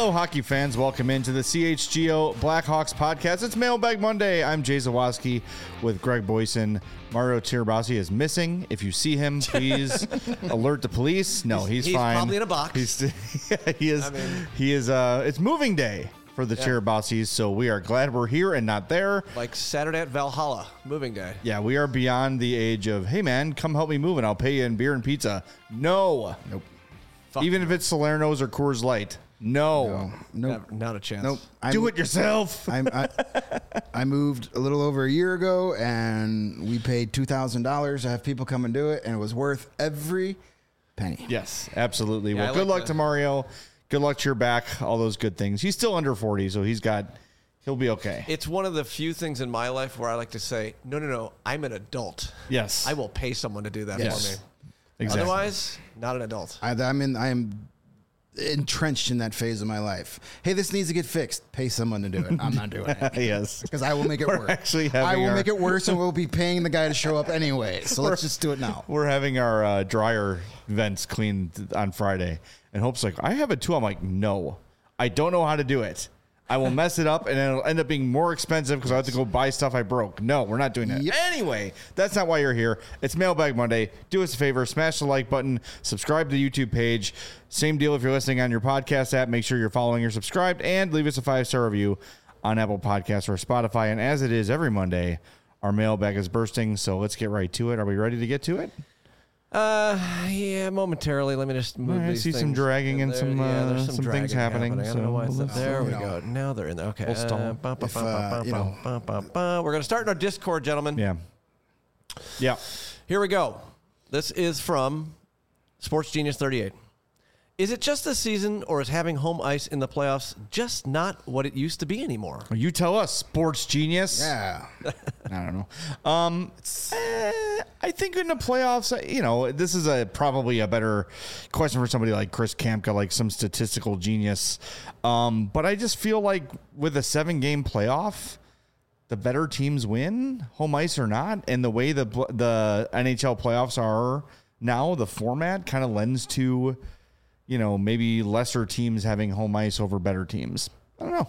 Hello, hockey fans. Welcome into the CHGO Blackhawks podcast. It's Mailbag Monday. I'm Jay Zawaski with Greg Boyson. Mario Tirabassi is missing. If you see him, please alert the police. No, he's fine. He's probably in a box. He is. He is. It's moving day for the Tirabassis, so we are glad we're here and not there. Like Saturday at Valhalla, moving day. Yeah, we are beyond the age of, hey, man, come help me move and I'll pay you in beer and pizza. No. Nope. Even if it's Salerno's or Coors Light. No. Nope. Not a chance. Nope. Do it yourself. I moved a little over a year ago, and we paid $2,000 to have people come and do it, and it was worth every penny. Yes, absolutely. Yeah, Well, good luck to Mario. Good luck to your back. All those good things. He's still under 40, so he'll be okay. It's one of the few things in my life where I like to say, no, I'm an adult. Yes. I will pay someone to do that Yes. for me. Exactly. Otherwise, not an adult. I am entrenched in that phase of my life. Hey, this needs to get fixed. Pay someone to do it. I'm not doing it. Yes. Because I will make it worse. Actually I having will our- make it worse, and we'll be paying the guy to show up anyway. So let's just do it now. We're having our dryer vents cleaned on Friday. And Hope's like, I have it too. I'm like, no, I don't know how to do it. I will mess it up, and then it'll end up being more expensive because I have to go buy stuff I broke. No, we're not doing that. Yep. Anyway, that's not why you're here. It's Mailbag Monday. Do us a favor, smash the like button, subscribe to the YouTube page. Same deal if you're listening on your podcast app. Make sure you're following or subscribed, and leave us a 5-star review on Apple Podcasts or Spotify. And as it is every Monday, our mailbag is bursting, so let's get right to it. Are we ready to get to it? Yeah, momentarily. Let me just move I these see things. some dragging and There- some there's things dragging happening. I don't know why it's So not. There we you know, go. Now they're in there. Okay. we'll stall. We're going to start in our Discord, gentlemen. Yeah. Here we go. This is from Sports Genius 38. Is it just this season, or is having home ice in the playoffs just not what it used to be anymore? You tell us, Sports Genius. Yeah. I don't know. I think in the playoffs, this is probably a better question for somebody like Chris Kamka, like some statistical genius. But I just feel like with a 7-game playoff, the better teams win, home ice or not. And the way the NHL playoffs are now, the format kind of lends to, maybe lesser teams having home ice over better teams. I don't know.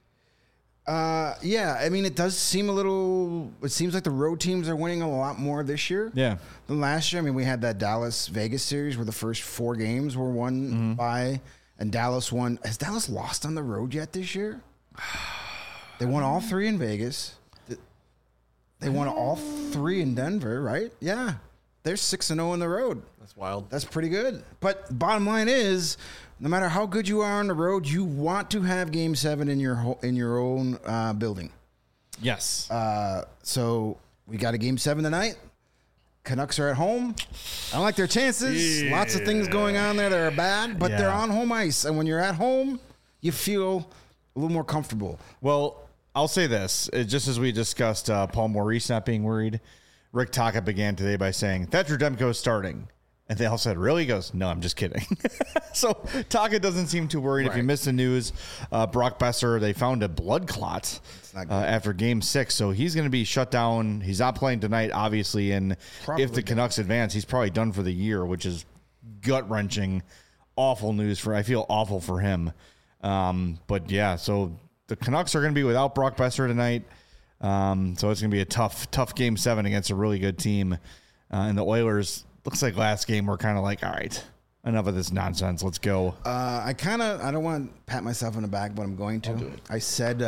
Yeah, I mean, it does seem it seems like the road teams are winning a lot more this year Yeah. than last year. I mean, we had that Dallas-Vegas series where the first 4 games were won by, and Dallas won. Has Dallas lost on the road yet this year? They won all 3 in Vegas. They won all 3 in Denver, right? Yeah. They're 6-0 on the road. That's wild. That's pretty good. But bottom line is, no matter how good you are on the road, you want to have Game 7 in your own building. Yes. So we got a Game 7 tonight. Canucks are at home. I don't like their chances. Yeah. Lots of things going on there that are bad, but they're on home ice. And when you're at home, you feel a little more comfortable. Well, I'll say this. Just as we discussed Paul Maurice not being worried, Rick Tocchet began today by saying, Thatcher Demko is starting. And they all said, really? He goes, no, I'm just kidding. So Tocchet doesn't seem too worried. If you missed the news, Brock Besser, they found a blood clot after Game 6. So he's going to be shut down. He's not playing tonight, obviously. And if the Canucks advance, he's probably done for the year, which is gut-wrenching, awful news. I feel awful for him. But, yeah, so the Canucks are going to be without Brock Besser tonight. So it's going to be a tough Game 7 against a really good team. And the Oilers, looks like last game we're kind of like, all right, enough of this nonsense. Let's go. I don't want to pat myself on the back, but I'm going to. I said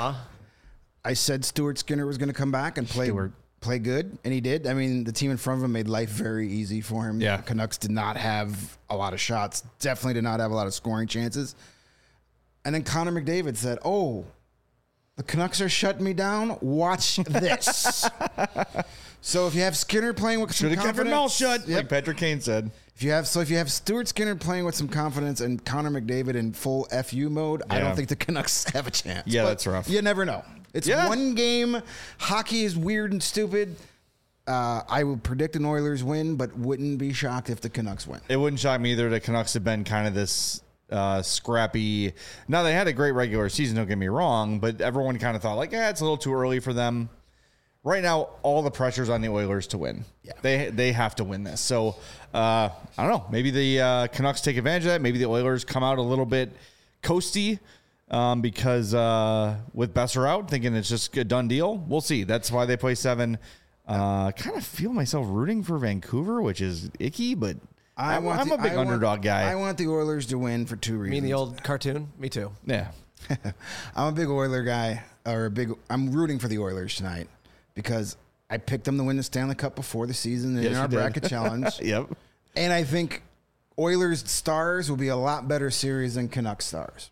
Stuart Skinner was going to come back and play good, and he did. I mean, the team in front of him made life very easy for him. Yeah. The Canucks did not have a lot of shots, definitely did not have a lot of scoring chances. And then Connor McDavid said, oh, the Canucks are shutting me down. Watch this. So if you have Skinner playing with some confidence, kept your mouth shut, like Patrick Kane said. If you have Stuart Skinner playing with some confidence and Connor McDavid in full FU mode, I don't think the Canucks have a chance. Yeah, but that's rough. You never know. It's one game. Hockey is weird and stupid. I would predict an Oilers win, but wouldn't be shocked if the Canucks win. It wouldn't shock me either. The Canucks have been kind of this scrappy. Now, they had a great regular season, don't get me wrong, but everyone kind of thought, like, it's a little too early for them. Right now, all the pressure's on the Oilers to win. Yeah. They have to win this. So, I don't know. Maybe the Canucks take advantage of that. Maybe the Oilers come out a little bit coasty because with Besser out, thinking it's just a done deal. We'll see. That's why they play 7. Kind of feel myself rooting for Vancouver, which is icky, but I'm a big underdog guy. I want the Oilers to win for 2 reasons. You mean the old cartoon? Me too. Yeah. I'm a big Oiler guy, I'm rooting for the Oilers tonight because I picked them to win the Stanley Cup before the season in our bracket challenge. Yep. And I think Oilers Stars will be a lot better series than Canucks Stars.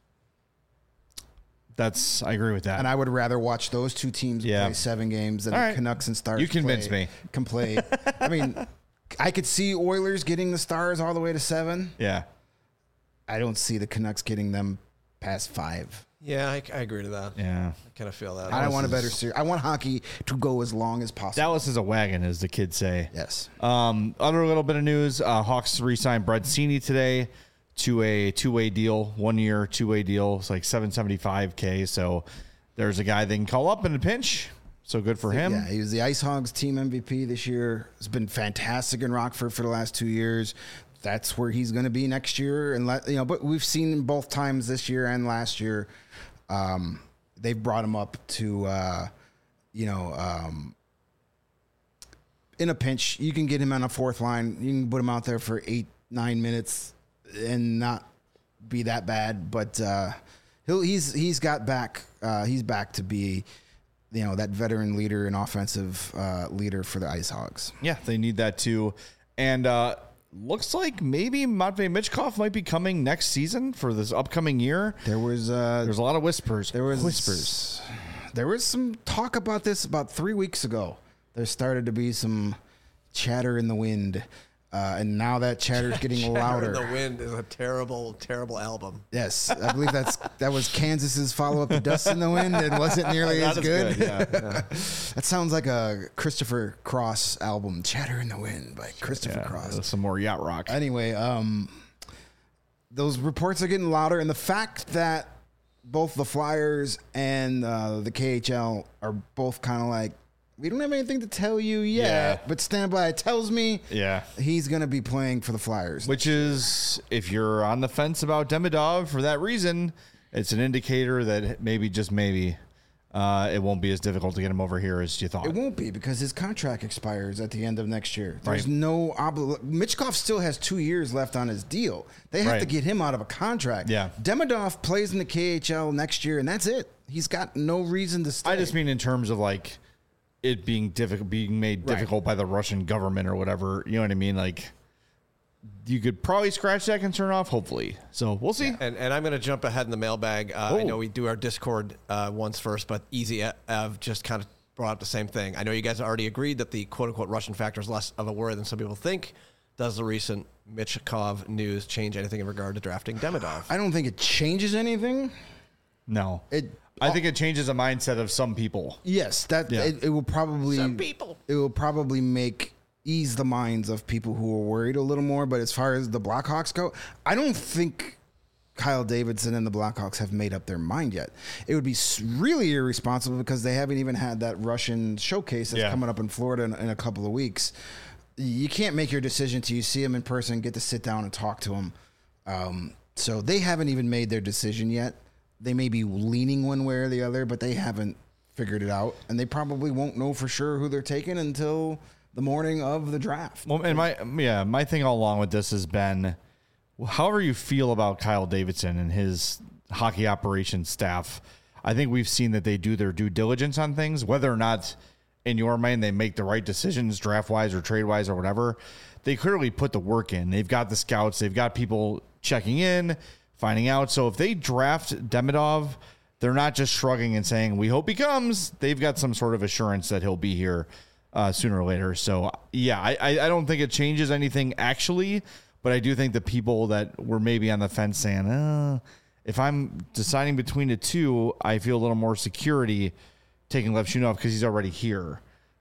I agree with that. And I would rather watch those 2 teams play 7 games than Canucks and Stars. You convinced me. Can play. I mean, I could see Oilers getting the Stars all the way to 7. Yeah. I don't see the Canucks getting them past 5. Yeah, I agree to that. Yeah. I kind of feel that. I want a better series. I want hockey to go as long as possible. Dallas is a wagon, as the kids say. Yes. Other little bit of news, Hawks re-signed Brett Seney today to a 2-way deal, 1 year, 2-way deal. It's like $775K. So there's a guy they can call up in a pinch. So good for him. Yeah, he was the Ice Hogs team MVP this year. Has been fantastic in Rockford for the last 2 years. That's where he's going to be next year. And but we've seen him both times this year and last year. They've brought him up to, in a pinch. You can get him on a 4th line. You can put him out there for 8-9 minutes and not be that bad. But he's got back. He's back to be, that veteran leader and offensive leader for the Ice Hogs. Yeah, they need that too. And looks like maybe Matvei Michkov might be coming next season for this upcoming year. There's a lot of whispers. There was some talk about this about 3 weeks ago. There started to be some chatter in the wind, and now that chatter is getting louder. Chatter in the Wind is a terrible, terrible album. Yes, I believe that was Kansas's follow-up to Dust in the Wind. It wasn't nearly as good. Yeah. That sounds like a Christopher Cross album, Chatter in the Wind by Christopher Cross. Some more yacht rock. Anyway, those reports are getting louder, and the fact that both the Flyers and the KHL are both kind of like, we don't have anything to tell you yet, but stand by. It tells me he's going to be playing for the Flyers. Which is, if you're on the fence about Demidov for that reason, it's an indicator that maybe, just maybe, it won't be as difficult to get him over here as you thought. It won't be because his contract expires at the end of next year. There's no Michkov still has 2 years left on his deal. They have to get him out of a contract. Yeah. Demidov plays in the KHL next year, and that's it. He's got no reason to stay. I just mean in terms of like it being made difficult by the Russian government or whatever. You know what I mean? Like, you could probably scratch that concern off, hopefully. So we'll see. And I'm going to jump ahead in the mailbag. I know we do our Discord once first, but Easy Ev just kind of brought up the same thing. I know you guys already agreed that the quote-unquote Russian factor is less of a worry than some people think. Does the recent Michkov news change anything in regard to drafting Demidov? I don't think it changes anything. No. I think it changes the mindset of some people. Yes, it will probably Some people. It will probably ease the minds of people who are worried a little more. But as far as the Blackhawks go, I don't think Kyle Davidson and the Blackhawks have made up their mind yet. It would be really irresponsible because they haven't even had that Russian showcase that's coming up in Florida in a couple of weeks. You can't make your decision till you see him in person, get to sit down and talk to him. So they haven't even made their decision yet. They may be leaning one way or the other, but they haven't figured it out. And they probably won't know for sure who they're taking until the morning of the draft. Well, and my thing all along with this has been, however you feel about Kyle Davidson and his hockey operations staff, I think we've seen that they do their due diligence on things, whether or not in your mind they make the right decisions draft-wise or trade-wise or whatever. They clearly put the work in. They've got the scouts. They've got people checking in, finding out. So if they draft Demidov, they're not just shrugging and saying, we hope he comes. They've got some sort of assurance that he'll be here sooner or later. So, yeah, I don't think it changes anything actually, but I do think the people that were maybe on the fence saying, if I'm deciding between the two, I feel a little more security taking Levshunov because he's already here.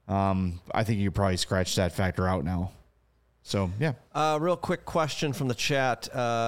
I think you could probably scratch that factor out now. So, yeah. Real quick question from the chat.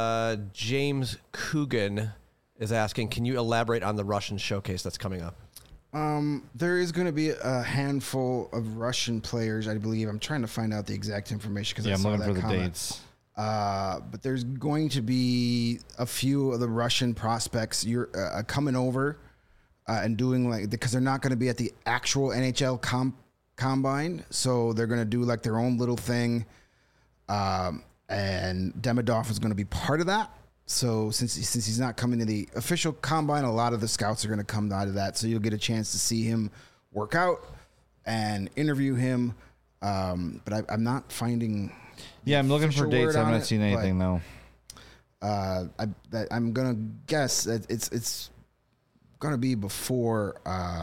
James Coogan is asking, can you elaborate on the Russian showcase that's coming up? There is going to be a handful of Russian players, I believe. I'm trying to find out the exact information because I'm looking for the dates. But there's going to be a few of the Russian prospects you're coming over and doing because they're not going to be at the actual NHL combine, so they're going to do like their own little thing. And Demidov is going to be part of that. So since he's not coming to the official combine, a lot of the scouts are going to come out of that. So you'll get a chance to see him work out and interview him. But I'm not finding. Yeah, I'm looking for dates. I haven't seen anything though. I'm gonna guess that it's gonna be before.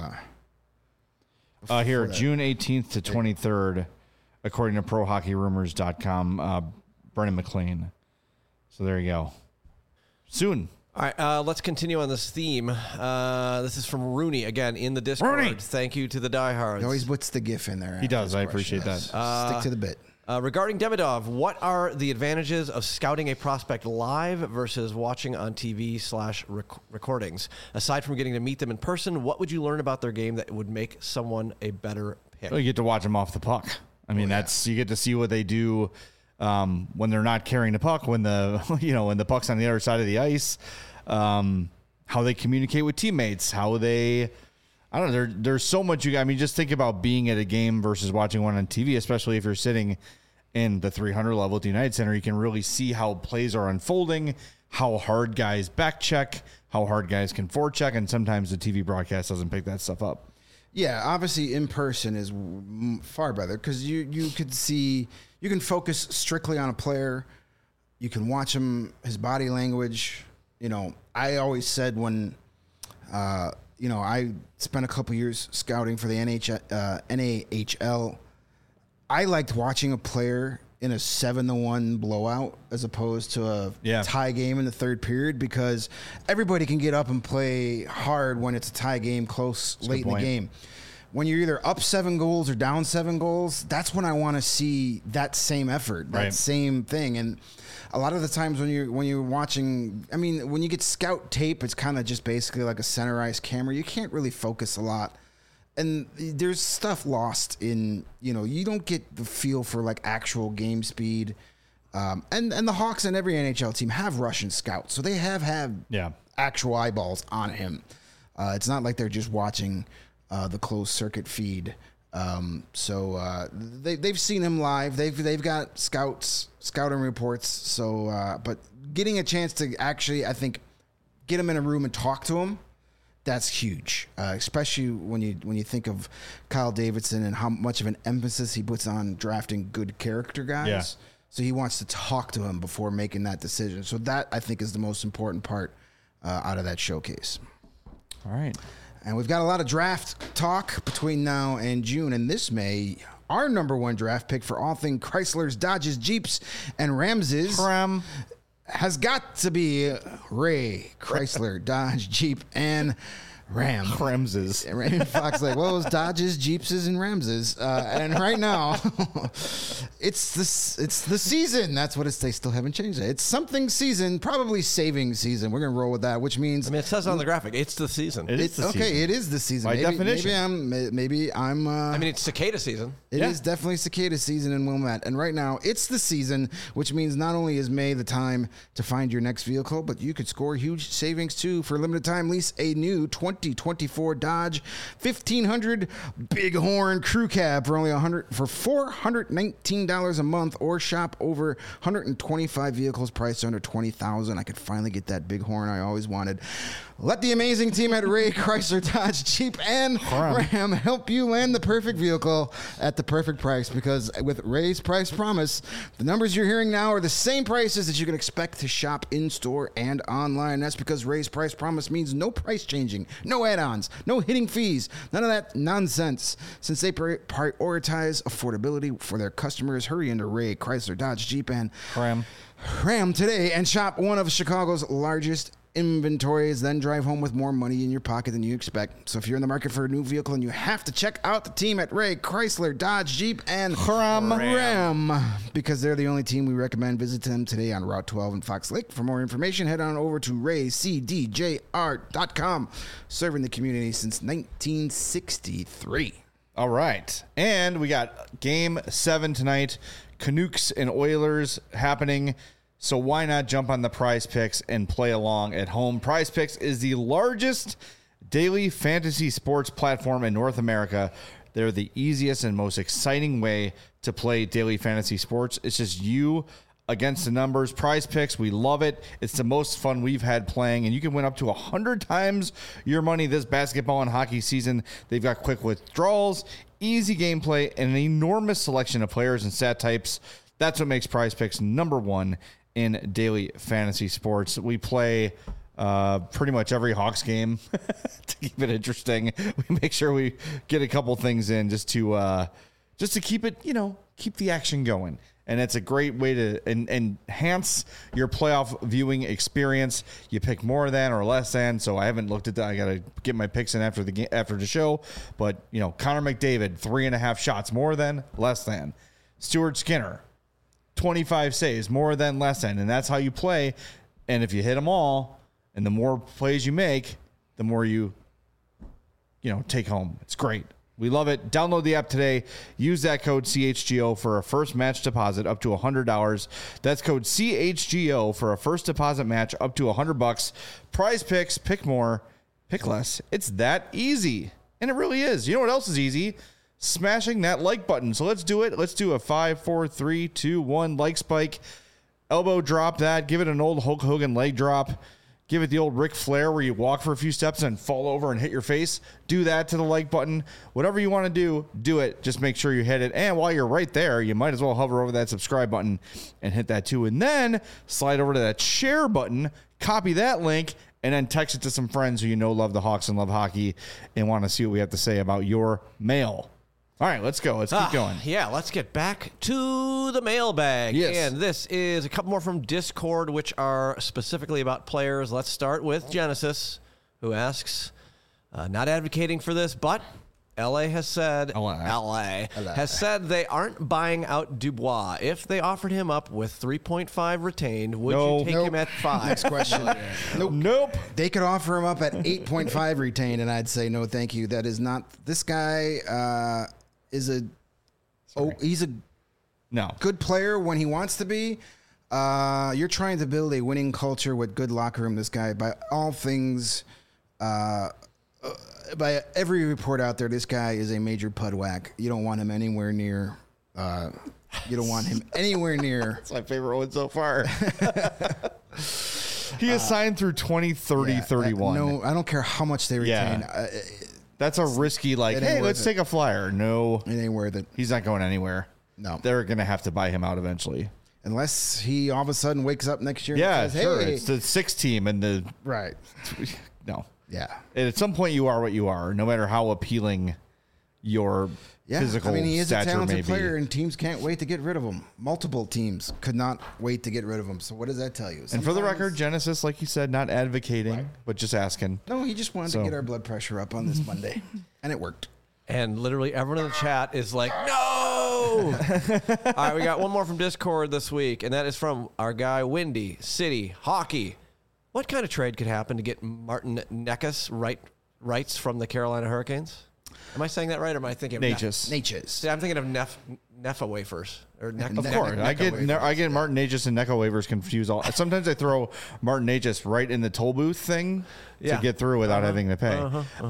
Here, June 18th to 23rd, according to ProHockeyRumors.com. Brendan McLean. So there you go. Soon. All right, let's continue on this theme. This is from Rooney, again, in the Discord. Rooney. Thank you to the diehards. He always puts the GIF in there. He does. I appreciate that. Stick to the bit. Regarding Demidov, what are the advantages of scouting a prospect live versus watching on TV/recordings? Aside from getting to meet them in person, what would you learn about their game that would make someone a better pick? Well, you get to watch them off the puck. I mean, you get to see what they do when they're not carrying the puck, when the puck's on the other side of the ice, how they communicate with teammates, how they. I don't know. There's so much. Just think about being at a game versus watching one on TV, especially if you're sitting in the 300 level at the United Center. You can really see how plays are unfolding, how hard guys back check, how hard guys can forecheck, and sometimes the TV broadcast doesn't pick that stuff up. Yeah, obviously in person is far better because you can focus strictly on a player. You can watch him, his body language. I always said when. I spent a couple years scouting for the NAHL. I liked watching a player in a 7-1 blowout as opposed to a tie game in the third period because everybody can get up and play hard when it's a tie game close late in the game. When you're either up 7 goals or down 7 goals, that's when I want to see that same effort, that same thing. And a lot of the times when you're watching, when you get scout tape, it's kind of just basically like a center ice camera. You can't really focus a lot. And there's stuff lost in, you don't get the feel for like actual game speed. And the Hawks and every NHL team have Russian scouts. So they have had actual eyeballs on him. It's not like they're just watching the closed circuit feed. So they've seen him live. They've got scouting reports. So, but getting a chance to actually, I think, get him in a room and talk to him, that's huge. Especially when you think of Kyle Davidson and how much of an emphasis he puts on drafting good character guys. Yeah. So he wants to talk to him before making that decision. So that I think is the most important part out of that showcase. All right. And we've got a lot of draft talk between now and June. And this May, our number one draft pick for all things Chryslers, Dodges, Jeeps, and Ramses has got to be Ray Chrysler, Dodge, Jeep, and Ramses. Raymond Fox it was Dodges, Jeepses, and Ramses. And right now, it's the season. That's what they still haven't changed it. It's something season, probably saving season. We're going to roll with that, which means... it says on the graphic, it's the season. It is the season. Okay, it is the season. By definition. Maybe I'm... it's cicada season. It is definitely cicada season in Wilmette. And right now, it's the season, which means not only is May the time to find your next vehicle, but you could score huge savings, too. For a limited time, lease a new 2024 Dodge 1500 Bighorn Crew Cab for only $419 a month, or shop over 125 vehicles priced under $20,000. I could finally get that Bighorn I always wanted. Let the amazing team at Ray Chrysler, Dodge, Jeep, and Ram help you land the perfect vehicle at the perfect price, because with Ray's Price Promise, the numbers you're hearing now are the same prices that you can expect to shop in-store and online. That's because Ray's Price Promise means no price changing, no add-ons, no hitting fees, none of that nonsense. Since they prioritize affordability for their customers, hurry into Ray Chrysler, Dodge, Jeep, and Ram today and shop one of Chicago's largest inventories, then drive home with more money in your pocket than you expect. So if you're in the market for a new vehicle and you have to check out the team at Ray Chrysler, Dodge, Jeep, and Ram, because they're the only team we recommend, visit them today on Route 12 in Fox Lake. For more information, head on over to raycdjr.com, serving the community since 1963. All right. And we got Game 7 tonight. Canucks and Oilers happening. So why not jump on the Prize Picks and play along at home? Prize Picks is the largest daily fantasy sports platform in North America. They're the easiest and most exciting way to play daily fantasy sports. It's just you against the numbers. Prize Picks, we love it. It's the most fun we've had playing, and you can win up to 100 times your money this basketball and hockey season. They've got quick withdrawals, easy gameplay, and an enormous selection of players and stat types. That's what makes Prize Picks number one in daily fantasy sports. We play pretty much every Hawks game to keep it interesting. We make sure we get a couple things in just to keep it, keep the action going. And it's a great way to enhance your playoff viewing experience. You pick more than or less than. So I haven't looked at that. I got to get my picks in after the show. But, Connor McDavid, 3.5 shots, more than, less than. Stuart Skinner, 25 saves, more than, less than. And that's how you play. And if you hit them all, and the more plays you make, the more you take home. It's great. We love it. Download the app today. Use that code CHGO for a first match deposit up to $100. That's code CHGO for a first deposit match up to $100. Prize Picks, pick more, pick less. It's that easy. And it really is. You know what else is easy? Smashing that like button. So let's do it. Let's do a 5, 4, 3, 2, 1 like spike. Elbow drop that. Give it an old Hulk Hogan leg drop. Give it the old Ric Flair where you walk for a few steps and fall over and hit your face. Do that to the like button. Whatever you want to do it. Just make sure you hit it. And while you're right there, you might as well hover over that subscribe button and hit that too. And then slide over to that share button, copy that link, and then text it to some friends who love the Hawks and love hockey and want to see what we have to say about your mail. All right, let's go. Let's keep going. Yeah, let's get back to the mailbag. Yes. And this is a couple more from Discord, which are specifically about players. Let's start with Genesis, who asks, not advocating for this, but LA has said has said they aren't buying out Dubois. If they offered him up with 3.5 retained, would you take him at 5? Next question. Nope. They could offer him up at 8.5 retained, and I'd say no, thank you. That is not. This guy he's a good player when he wants to be. You're trying to build a winning culture with good locker room. This guy, by all things, by every report out there, this guy is a major pudwhack. You don't want him anywhere near. You don't want him anywhere near. That's my favorite one so far. He is signed through 2030, 31. No, I don't care how much they retain. That's a risky, hey, let's take a flyer. No. It ain't worth it. He's not going anywhere. No. They're going to have to buy him out eventually. Unless he all of a sudden wakes up next year and says, sure. Hey. It's the 6 team and the... Right. No. Yeah. And at some point, you are what you are, no matter how appealing your physical he is a talented player, be. and teams can't wait to get rid of him. Multiple teams could not wait to get rid of him. So what does that tell you? And for the record, Genesis, like you said, not advocating, but just asking. No, he just wanted to get our blood pressure up on this Monday, and it worked. And literally everyone in the chat is like, no! All right, we got one more from Discord this week, and that is from our guy, Windy City Hockey. What kind of trade could happen to get Martin Necas rights from the Carolina Hurricanes? Am I saying that right, or am I thinking of Natchez? See, I'm thinking of Neffa wafers. Of course. I get Martin Necas and Necco waivers confused. Sometimes I throw Martin Necas right in the toll booth thing to get through without having to pay.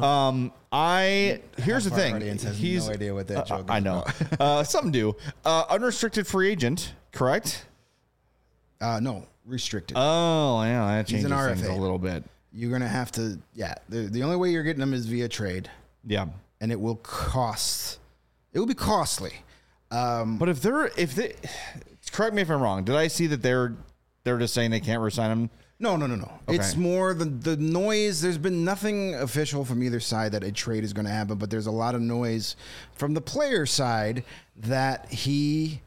Here's the thing. He's no idea what that joke is. I know. Some do. Unrestricted free agent, correct? No, restricted. Oh, yeah, that changes RFA. Things a little bit. You're going to have to, the only way you're getting them is via trade. Yeah. And it will be costly. But if they correct me if I'm wrong, did I see that they're just saying they can't resign him? No. Okay. It's more the noise. There's been nothing official from either side that a trade is going to happen, but there's a lot of noise from the player side that he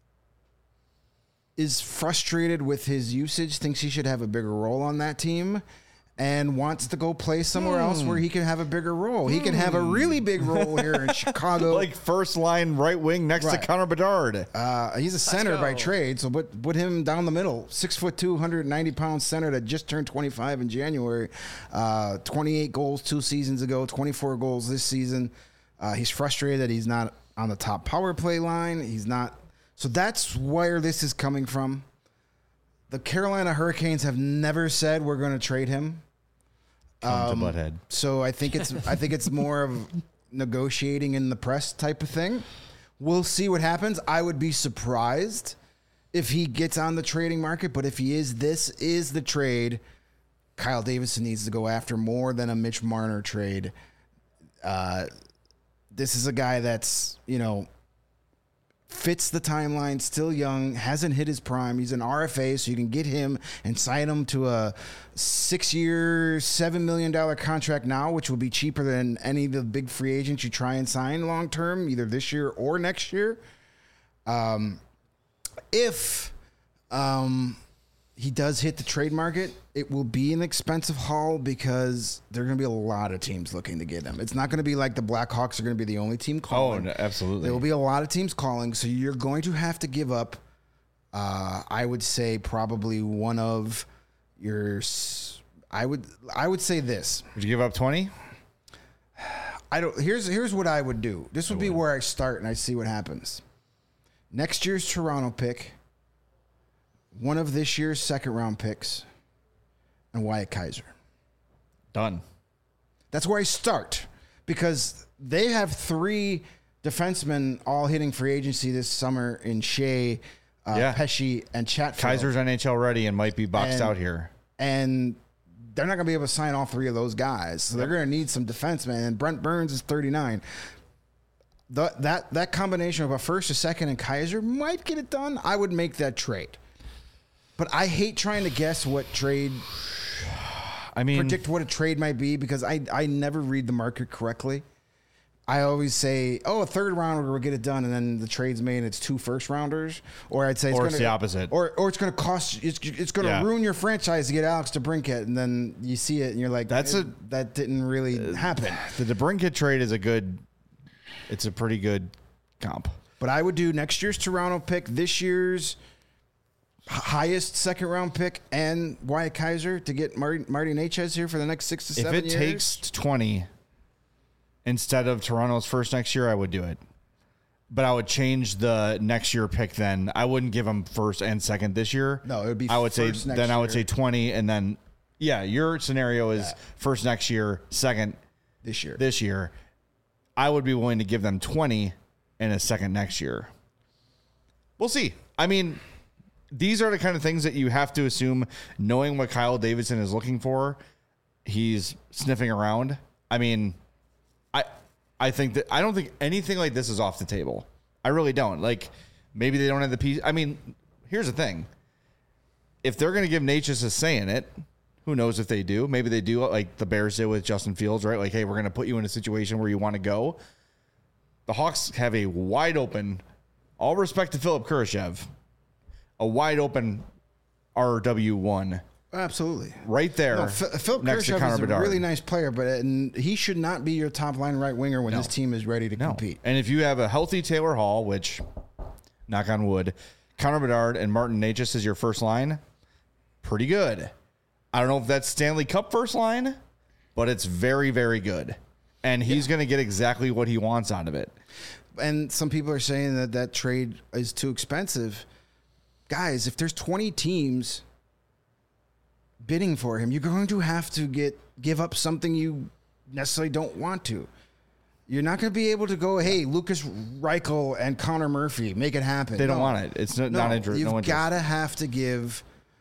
is frustrated with his usage, thinks he should have a bigger role on that team, and wants to go play somewhere else where he can have a bigger role. He can have a really big role here in Chicago. Like first line right wing next to Connor Bedard. He's a center by trade, so put him down the middle. 6'2", 190-pound center that just turned 25 in January. 28 goals 2 seasons ago, 24 goals this season. He's frustrated that he's not on the top power play line. He's not. So that's where this is coming from. The Carolina Hurricanes have never said we're going to trade him. Come to Butthead. So I think it's more of negotiating in the press type of thing. We'll see what happens. I would be surprised if he gets on the trading market, but if he is, this is the trade. Kyle Davidson needs to go after more than a Mitch Marner trade. This is a guy that's, fits the timeline, still young, hasn't hit his prime. He's an RFA, so you can get him and sign him to a 6-year, $7 million contract now, which will be cheaper than any of the big free agents you try and sign long term, either this year or next year. If he does hit the trade market, it will be an expensive haul because there are going to be a lot of teams looking to get him. It's not going to be like the Blackhawks are going to be the only team calling. Oh, no, absolutely. There will be a lot of teams calling, so you're going to have to give up, I would say, probably one of your... I would say this. Would you give up 20? Here's what I would do. This would be where I start and I see what happens. Next year's Toronto pick, one of this year's second-round picks, and Wyatt Kaiser. Done. That's where I start because they have 3 defensemen all hitting free agency this summer in Shea, Pesce, and Chatfield. Kaiser's NHL ready and might be boxed out here. And they're not going to be able to sign all 3 of those guys. So they're going to need some defensemen, and Brent Burns is 39. That combination of a first, a second, and Kaiser might get it done. I would make that trade. But I hate trying to guess what trade... predict what a trade might be because I never read the market correctly. I always say, a third rounder will get it done, and then the trade's made and it's 2 first rounders. Or I'd say it's the opposite. Or it's going to cost... It's going to ruin your franchise to get Alex DeBrincat, and then you see it and you're like, that didn't really happen. The DeBrincat trade is it's a pretty good comp. But I would do next year's Toronto pick, this year's highest second-round pick, and Wyatt Kaiser to get Marty Necas here for the next 6 to 7 years. If it takes 20 instead of Toronto's first next year, I would do it. But I would change the next year pick then. I wouldn't give them first and second this year. No, it would be I would first say next then year. I would say 20 and then your scenario is first next year, second this year. I would be willing to give them 20 and a second next year. We'll see. I mean, these are the kind of things that you have to assume, knowing what Kyle Davidson is looking for. He's sniffing around. I mean, I think that I don't think anything like this is off the table. I really don't. Like, maybe they don't have the piece. I mean, here's the thing. If they're going to give Necas a say in it, who knows if they do? Maybe they do, like the Bears did with Justin Fields, right? Like, hey, we're going to put you in a situation where you want to go. The Hawks have a wide open, all respect to Philip Kurashev, a wide open RW1. Absolutely. Right there. No, Philip Kurashev is a really nice player, but he should not be your top line right winger when this team is ready to compete. And if you have a healthy Taylor Hall, which, knock on wood, Connor Bedard and Martin Necas is your first line, pretty good. I don't know if that's Stanley Cup first line, but it's very, very good. And he's going to get exactly what he wants out of it. And some people are saying that trade is too expensive. Guys, if there's 20 teams bidding for him, you're going to have to give up something you necessarily don't want to. You're not going to be able to go, hey, Lucas Reichel and Connor Murphy, make it happen. They don't want it. It's not interest. You've got to have to give...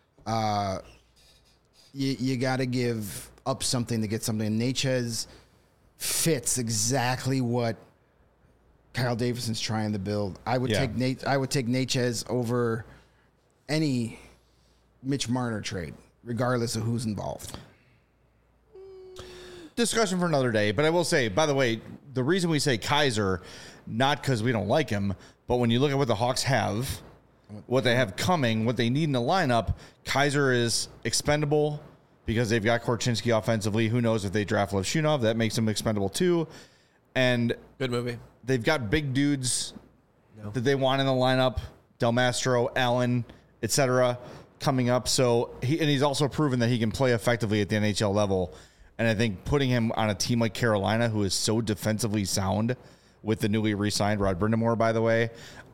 You got to give up something to get something. Necas fits exactly what Kyle Davidson's trying to build. I would take Necas over any Mitch Marner trade, regardless of who's involved. Discussion for another day. But I will say, by the way, the reason we say Kaiser, not because we don't like him, but when you look at what the Hawks have, what they have coming, what they need in the lineup, Kaiser is expendable because they've got Korchinski offensively. Who knows if they draft Levshunov? That makes him expendable too. And good movie. They've got big dudes that they want in the lineup. Del Mastro, Allen, etc. coming up. So he's also proven that he can play effectively at the NHL level. And I think putting him on a team like Carolina, who is so defensively sound with the newly re-signed Rod Brindamore, by the way,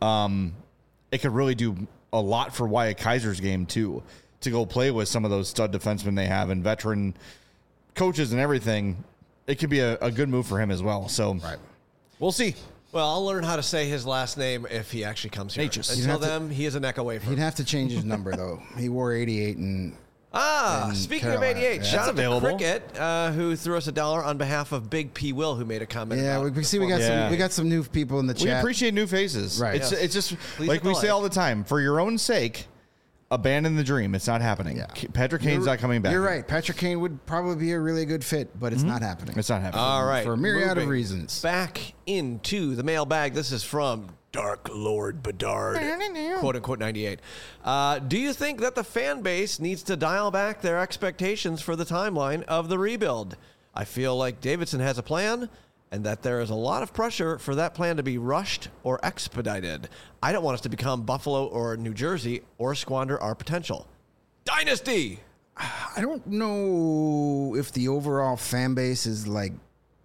it could really do a lot for Wyatt Kaiser's game, too, to go play with some of those stud defensemen they have and veteran coaches and everything. It could be a good move for him as well. So we'll see. Well, I'll learn how to say his last name if he actually comes here. Until then, he is a neck away from He'd have to change his number, though. He wore 88 and... speaking Carolina. of 88, shout out available. to Cricket, who threw us $1 on behalf of Big P. Will, who made a comment. Yeah, about we got some new people in the chat. We appreciate new faces. Right. It's just Please like hit we the say like. all the time, for your own sake, abandon the dream. It's not happening. Yeah. Patrick Kane's not coming back. You're right. Patrick Kane would probably be a really good fit, but it's not happening. It's not happening. All right. For a myriad of moving reasons. Back into the mailbag. This is from Dark Lord Bedard, quote unquote 98. Do you think that the fan base needs to dial back their expectations for the timeline of the rebuild? I feel like Davidson has a plan and that there is a lot of pressure for that plan to be rushed or expedited. I don't want us to become Buffalo or New Jersey or squander our potential. Dynasty! I don't know if the overall fan base is like...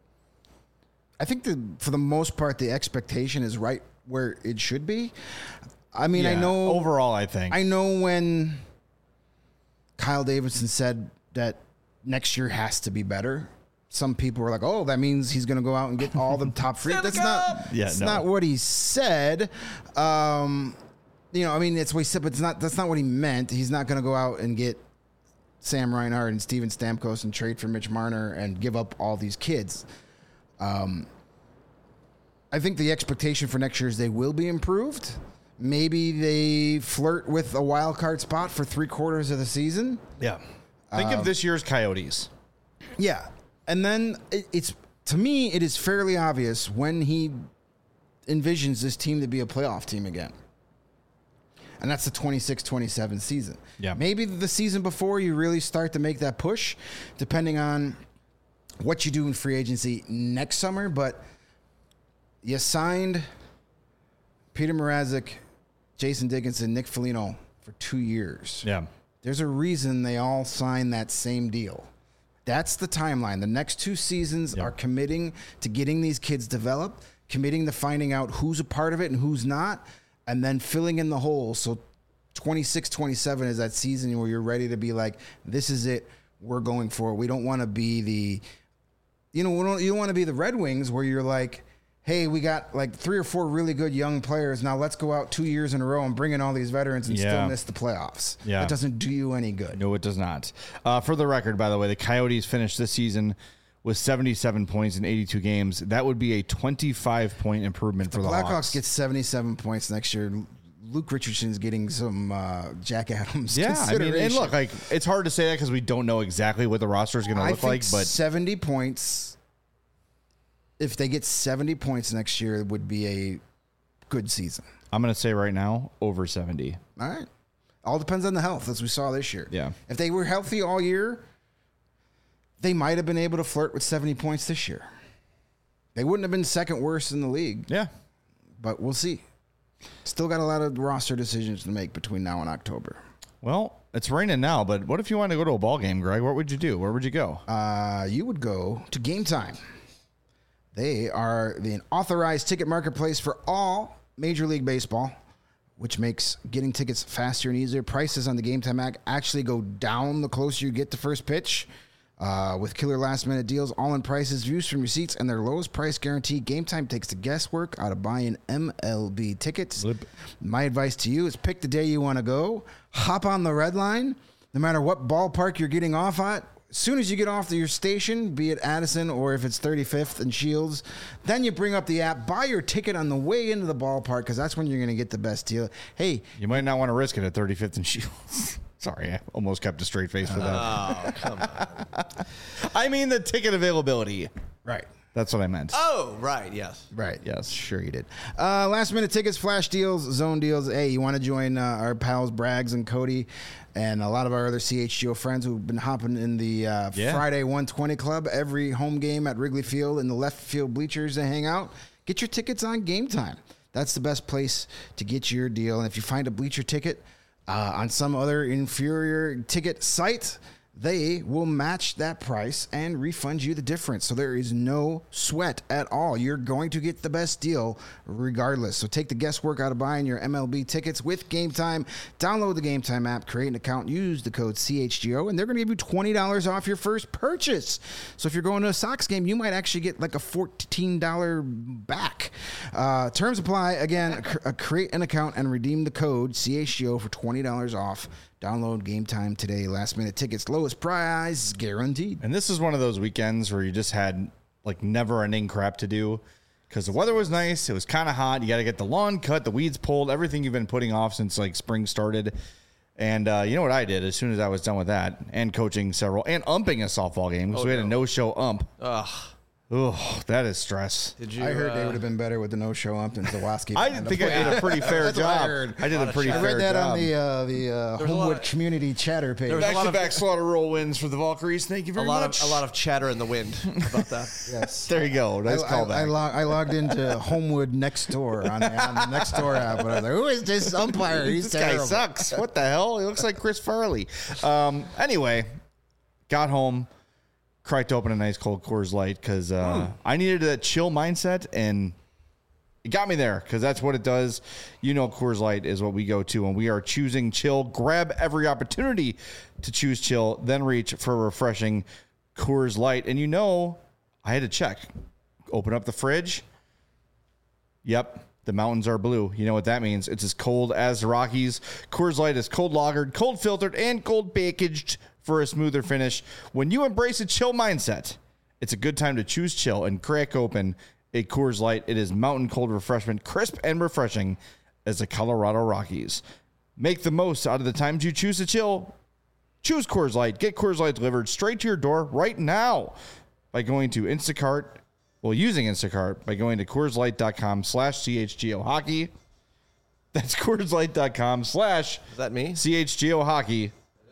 I think for the most part, the expectation is right where it should be. I mean, I know... Overall, I think. I know when Kyle Davidson said that next year has to be better, some people were like, oh, that means he's going to go out and get all the top free. That's not what he said. I mean, it's what he said, but that's not what he meant. He's not going to go out and get Sam Reinhart and Steven Stamkos and trade for Mitch Marner and give up all these kids. I think the expectation for next year is they will be improved. Maybe they flirt with a wild card spot for 3/4 of the season. Yeah. Think of this year's Coyotes. Yeah. And then it's to me, it is fairly obvious when he envisions this team to be a playoff team again. And that's the 26-27 season. Yeah. Maybe the season before you really start to make that push, depending on what you do in free agency next summer. But you signed Peter Mrazek, Jason Dickinson, Nick Foligno for 2 years. Yeah. There's a reason they all signed that same deal. That's the timeline. The next 2 seasons are committing to getting these kids developed, committing to finding out who's a part of it and who's not, and then filling in the hole. So 26-27 is that season where you're ready to be like, this is it. We're going for it. We don't want to be you don't want to be the Red Wings where you're like, hey, we got like 3 or 4 really good young players. Now let's go out 2 years in a row and bring in all these veterans and still miss the playoffs. Yeah. That doesn't do you any good. No, it does not. For the record, by the way, the Coyotes finished this season with 77 points in 82 games. That would be a 25-point improvement for the Blackhawks Hawks. get 77 points next year. Luke Richardson's getting some Jack Adams Yeah, I mean, consideration. and look, like it's hard to say that because we don't know exactly what the roster is going to look like. But 70 points, if they get 70 points next year, it would be a good season. I'm going to say right now, over 70. All right. All depends on the health, as we saw this year. Yeah. If they were healthy all year, they might have been able to flirt with 70 points this year. They wouldn't have been second worst in the league. Yeah. But we'll see. Still got a lot of roster decisions to make between now and October. Well, it's raining now, but what if you wanted to go to a ball game, Greg? What would you do? Where would you go? You would go to Game Time. They are the authorized ticket marketplace for all Major League Baseball, which makes getting tickets faster and easier. Prices on the Game Time app actually go down the closer you get to first pitch. With killer last-minute deals, all-in prices, views from receipts, and their lowest price guarantee, Game Time takes the guesswork out of buying MLB tickets. My advice to you is pick the day you want to go. Hop on the red line, no matter what ballpark you're getting off at. As soon as you get off to your station, be it Addison or if it's 35th and Shields, then you bring up the app, buy your ticket on the way into the ballpark because that's when you're going to get the best deal. Hey, You might not want to risk it at 35th and Shields. Sorry, I almost kept a straight face for that. Oh, come on. I mean the ticket availability. right. That's what I meant. Oh, right, yes. Right. Yes. Sure you did. Last minute tickets, flash deals, zone deals. Hey, you want to join our pals Braggs and Cody and a lot of our other CHGO friends who've been hopping in the Friday 120 Club every home game at Wrigley Field in the left field bleachers to hang out. Get your tickets on Game Time. That's the best place to get your deal. And if you find a bleacher ticket on some other inferior ticket site, they will match that price and refund you the difference. So there is no sweat at all. You're going to get the best deal regardless. So take the guesswork out of buying your MLB tickets with Game Time. Download the Game Time app, create an account, use the code CHGO, and they're going to give you $20 off your first purchase. So if you're going to a Sox game, you might actually get like a $14 back. Terms apply. Again, create an account and redeem the code CHGO for $20 off. Download Game Time today. Last minute tickets, lowest price guaranteed. And this is one of those weekends where you just had like never ending crap to do because the weather was nice. It was kind of hot. You got to get the lawn cut, the weeds pulled, everything you've been putting off since like spring started. And you know what I did as soon as I was done with that and coaching several and umping a softball game because we had a no-show ump. Oh, that is stress. Did you? I heard they would have been better with the no-show ump than Zawaski. I think I did a pretty fair job. I did a pretty fair job. I read that on the Homewood Community Chatter page. Back-to-back slaughter roll wins for the Valkyries. Thank you very much. A lot of chatter in the wind about that. Yes. There you go. Nice callback. I logged into Homewood Next Door on the Next Door app, but I was like, who is this umpire? He's this terrible. guy sucks. What the hell? He looks like Chris Farley. Anyway, got home. Cracked open a nice cold Coors Light because I needed a chill mindset, and it got me there because that's what it does. You know, Coors Light is what we go to when we are choosing chill. Grab every opportunity to choose chill, then reach for a refreshing Coors Light. And you know, I had to check. Open up the fridge. Yep. The mountains are blue. You know what that means. It's as cold as the Rockies. Coors Light is cold lagered, cold filtered, and cold packaged for a smoother finish. When you embrace a chill mindset, it's a good time to choose chill and crack open a Coors Light. It is mountain cold refreshment, crisp and refreshing as the Colorado Rockies. Make the most out of the times you choose to chill. Choose Coors Light. Get Coors Light delivered straight to your door right now by going to Instacart. Well, using Instacart by going to CoorsLight.com/CHGO hockey. That's CoorsLight.com/. Is that me? CHGO hockey.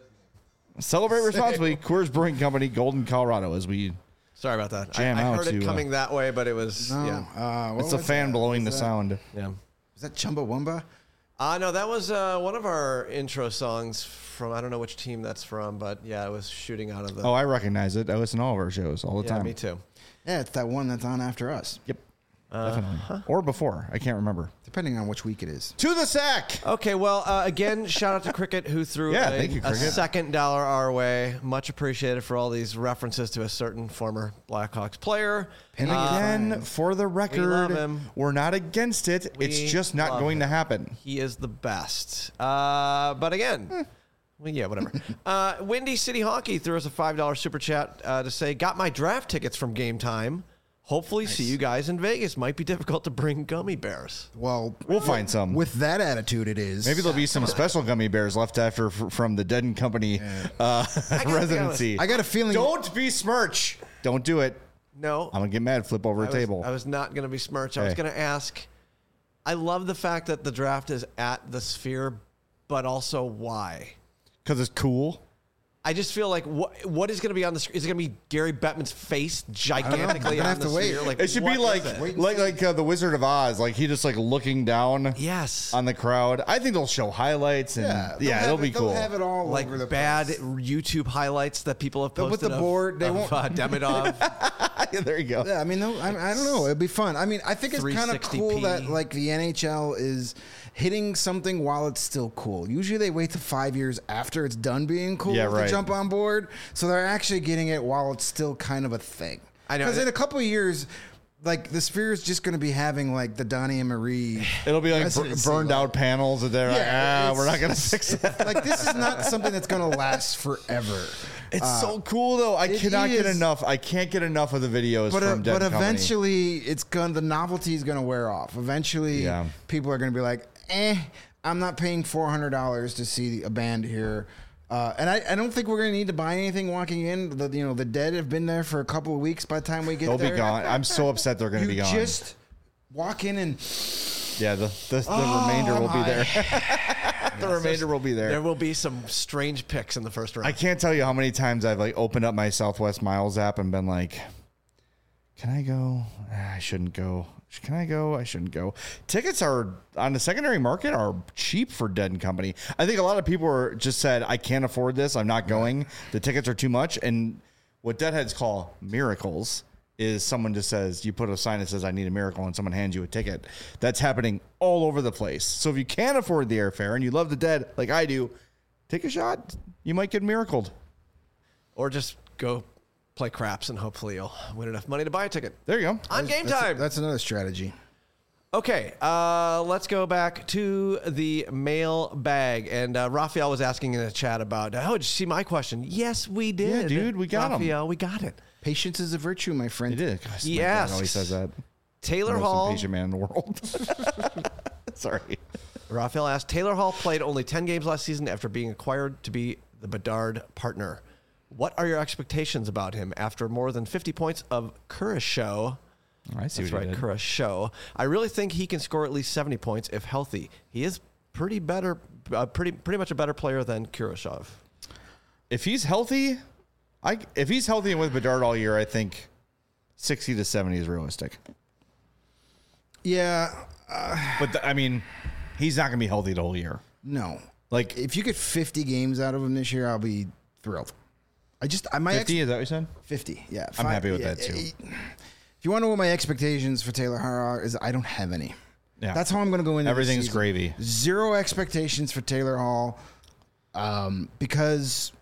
Celebrate responsibly. Coors Brewing Company, Golden, Colorado. As we Sorry about that. jam I out heard it to, coming that way, but it was it's a fan blowing the sound. yeah. Is that Chumbawamba? No, that was one of our intro songs from, I don't know which team that's from, but yeah, it was shooting out of the. Oh, I recognize it. I listen to all of our shows all the yeah, time. me too. Yeah, it's that one that's on after us. Yep. Definitely. Or before. I can't remember. Depending on which week it is. To the sack. Okay, well, again, shout out to Cricket who threw thank you, a Cricket. second dollar our way. Much appreciated for all these references to a certain former Blackhawks player. And again, for the record, love him. we're not against it. It's We just not love going to him. happen. He is the best. But again, well, yeah, whatever. Windy City Hockey threw us a $5 super chat to say, got my draft tickets from Game Time. Hopefully see you guys in Vegas. Might be difficult to bring gummy bears. Well, We'll find some. with that attitude, it is. Maybe there'll be some special gummy bears left after from the Dead and Company residency. I got a feeling. Don't besmirch. Don't do it. No. I'm going to get mad, flip over a table. I was not going to be smirched. I was Hey. going to ask. I love the fact that the draft is at the Sphere, but also why? Because it's cool. I just feel like what is going to be on the screen? Is it going to be Gary Bettman's face gigantically We're gonna on have the to wait. Sphere? Like, It should what be is like it? the Wizard of Oz. Like he just like looking down Yes. on the crowd. I think they'll show highlights and it'll be cool. They'll have it all Like over the bad place. YouTube highlights that people have But posted with the board, they won't- Demidov. Yeah, there you go. Yeah, I mean, I don't know. It'd be fun. I mean, I think it's kind of 360p. cool that like the NHL is hitting something while it's still cool. Usually they wait to 5 years after it's done being cool Yeah, to right. jump on board. So they're actually getting it while it's still kind of a thing. I know. Because in a couple of years, like the Sphere is just going to be having like the Donnie and Marie. It'll be like residency, burned like- out panels that they're Yeah, like, we're not going to fix that. Like this is not something that's going to last forever. It's so cool though. I it cannot get is. enough. I can't get enough of the videos But from Dead but Company. eventually, the novelty is going to wear off. Eventually, Yeah. people are going to be like, I'm not paying $400 to see a band here. And I don't think we're going to need to buy anything walking in. The Dead have been there for a couple of weeks by the time we get They'll there. be gone. I'm so upset they're going to be You gone. just walk in and Yeah, the remainder will be there. The remainder will be There there. will be some strange picks in the first round. I can't tell you how many times I've like opened up my Southwest Miles app and been like, "Can I go? I shouldn't go. Can I go? I shouldn't go. Tickets are on the secondary market are cheap for Dead and Company. I think a lot of people are just said, I can't afford this. I'm not going. The tickets are too much. And what Deadheads call miracles is someone just says, you put a sign that says, I need a miracle, and someone hands you a ticket. That's happening all over the place. So if you can't afford the airfare and you love the Dead like I do, take a shot. You might get miracled. Or just go play craps and hopefully you'll win enough money to buy a ticket. There you go. On Game Time. That's another strategy. Okay, let's go back to the mail bag. And Raphael was asking in the chat about, did you see my question? Yes, we did. Yeah, dude, we got him. Raphael, we got it. Patience is a virtue, my friend. It is. Gosh, He my dad asks, always says that. Taylor Most Hall. impatient man in the world. Sorry. Raphael asked, Taylor Hall played only 10 games last season after being acquired to be the Bedard partner. What are your expectations about him after more than 50 points of Curacao? I see That's what right, you did. Curacao. I really think he can score at least 70 points if healthy. He is pretty much a better player than Curacao. If he's healthy, if he's healthy and with Bedard all year, I think 60 to 70 is realistic. Yeah. But I mean, he's not going to be healthy the whole year. No. Like If you get 50 games out of him this year, I'll be thrilled. My 50, is that what you said? 50, yeah. I'm happy with that, too. If you want to know what my expectations for Taylor Hall are, is I don't have any. Yeah. That's how I'm going to go into Everything's this season. gravy. Zero expectations for Taylor Hall, because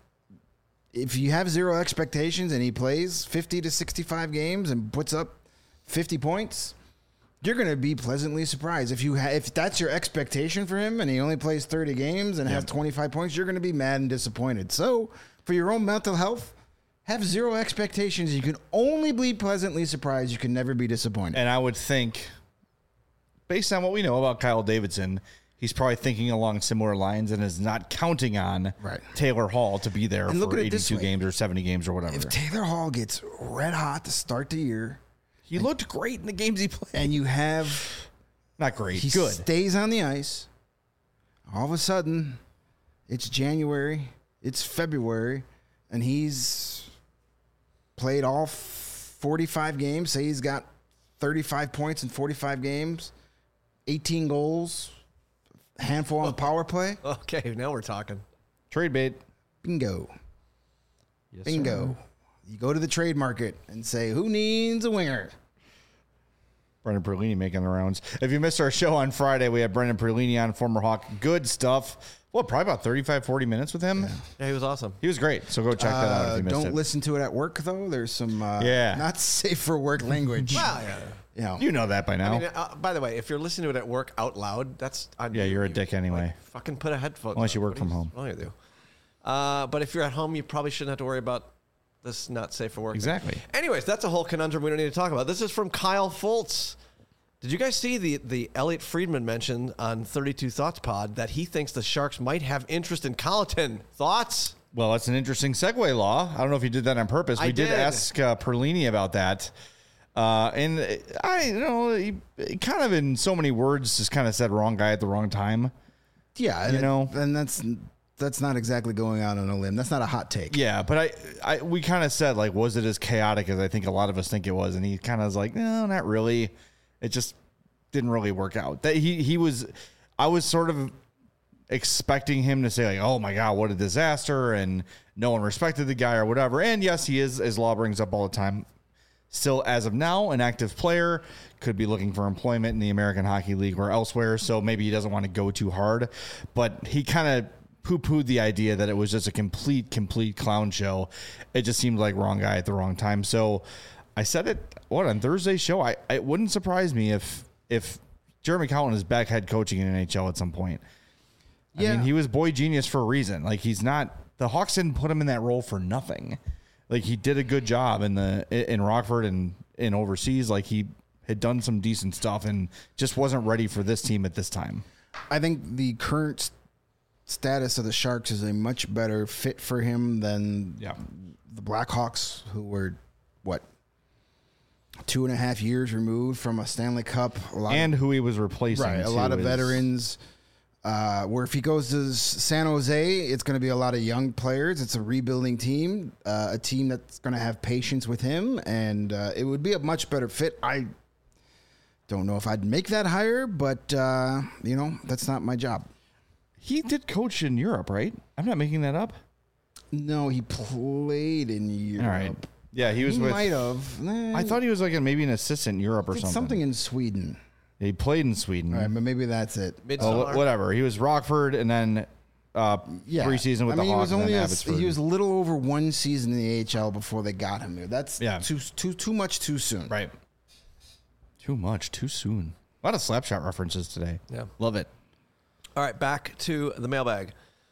if you have zero expectations and he plays 50 to 65 games and puts up 50 points, you're going to be pleasantly surprised. If that's your expectation for him and he only plays 30 games and has 25 points, you're going to be mad and disappointed. So for your own mental health, have zero expectations. You can only be pleasantly surprised. You can never be disappointed. And I would think, based on what we know about Kyle Davidson, he's probably thinking along similar lines and is not counting on Taylor Hall to be there for 82 games or 70 games or whatever. If Taylor Hall gets red hot to start the year, he looked great in the games he played. and you have Not great, he good. stays on the ice, all of a sudden, it's January, it's February, and he's played all 45 games. Say he's got 35 points in 45 games, 18 goals, a handful on the power play. Okay, now we're talking. Trade bait. Bingo. Yes, Bingo. sir. You go to the trade market and say, who needs a winger? Brendan Perlini making the rounds. If you missed our show on Friday, we had Brendan Perlini on, former Hawk. Good stuff. Well, probably about 35, 40 minutes with him. Yeah, he was awesome. He was great. So go check that out if you missed it. Don't listen to it at work, though. There's some not safe for work language. Well, yeah. You know that by now. I mean, by the way, if you're listening to it at work out loud, that's on Yeah, you. you're a dick anyway. Like, fucking put a headphone. Unless you on. work from home. What do you do? But if you're at home, you probably shouldn't have to worry about this not safe for work. Exactly. Anyways, that's a whole conundrum we don't need to talk about. This is from Kyle Foltz. Did you guys see the Elliot Friedman mentioned on 32 Thoughts Pod that he thinks the Sharks might have interest in Colleton? Thoughts? Well, that's an interesting segue, Law. I don't know if you did that on purpose. We did ask Perlini about that. And he kind of in so many words just kind of said wrong guy at the wrong time. Yeah, and that's not exactly going out on a limb. That's not a hot take. Yeah, but we kind of said, like, was it as chaotic as I think a lot of us think it was? And he kind of was like, no, not really. It just didn't really work out. That I was sort of expecting him to say, like, oh my God, what a disaster, and no one respected the guy or whatever. And yes, he is, as Law brings up all the time, still, as of now, an active player, could be looking for employment in the American Hockey League or elsewhere, so maybe he doesn't want to go too hard. But he kind of poo-pooed the idea that it was just a complete clown show. It just seemed like wrong guy at the wrong time. So I said it, on Thursday's show, it wouldn't surprise me if Jeremy Colleton is back head coaching in NHL at some point. Yeah. I mean, he was boy genius for a reason. Like, he's not, the Hawks didn't put him in that role for nothing. Like, he did a good job in Rockford and in overseas. Like, he had done some decent stuff and just wasn't ready for this team at this time. I think the current status of the Sharks is a much better fit for him than the Blackhawks, who were, 2.5 years removed from a Stanley Cup. Who he was replacing. Right, a lot of veterans. Where if he goes to San Jose, it's going to be a lot of young players. It's a rebuilding team, a team that's going to have patience with him, and it would be a much better fit. I Don't know if I'd make that hire, but that's not my job. He did coach in Europe, right? I'm not making that up. No, he played in Europe. All right. Yeah, he was with. Might have. I thought he was like maybe an assistant in Europe or something. Something in Sweden. He played in Sweden. All right, but maybe that's it. Whatever. He was Rockford and then preseason with the Hawks. He was a little over one season in the AHL before they got him here. That's too much too soon. Right. Too much too soon. A lot of Slapshot references today. Yeah. Love it. All right, back to the mailbag.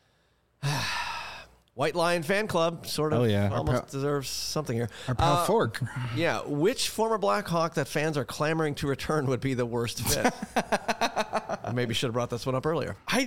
White Lion fan club sort of almost deserves something here. Our pal Fork. Yeah. Which former Blackhawk that fans are clamoring to return would be the worst fit? I maybe should have brought this one up earlier. I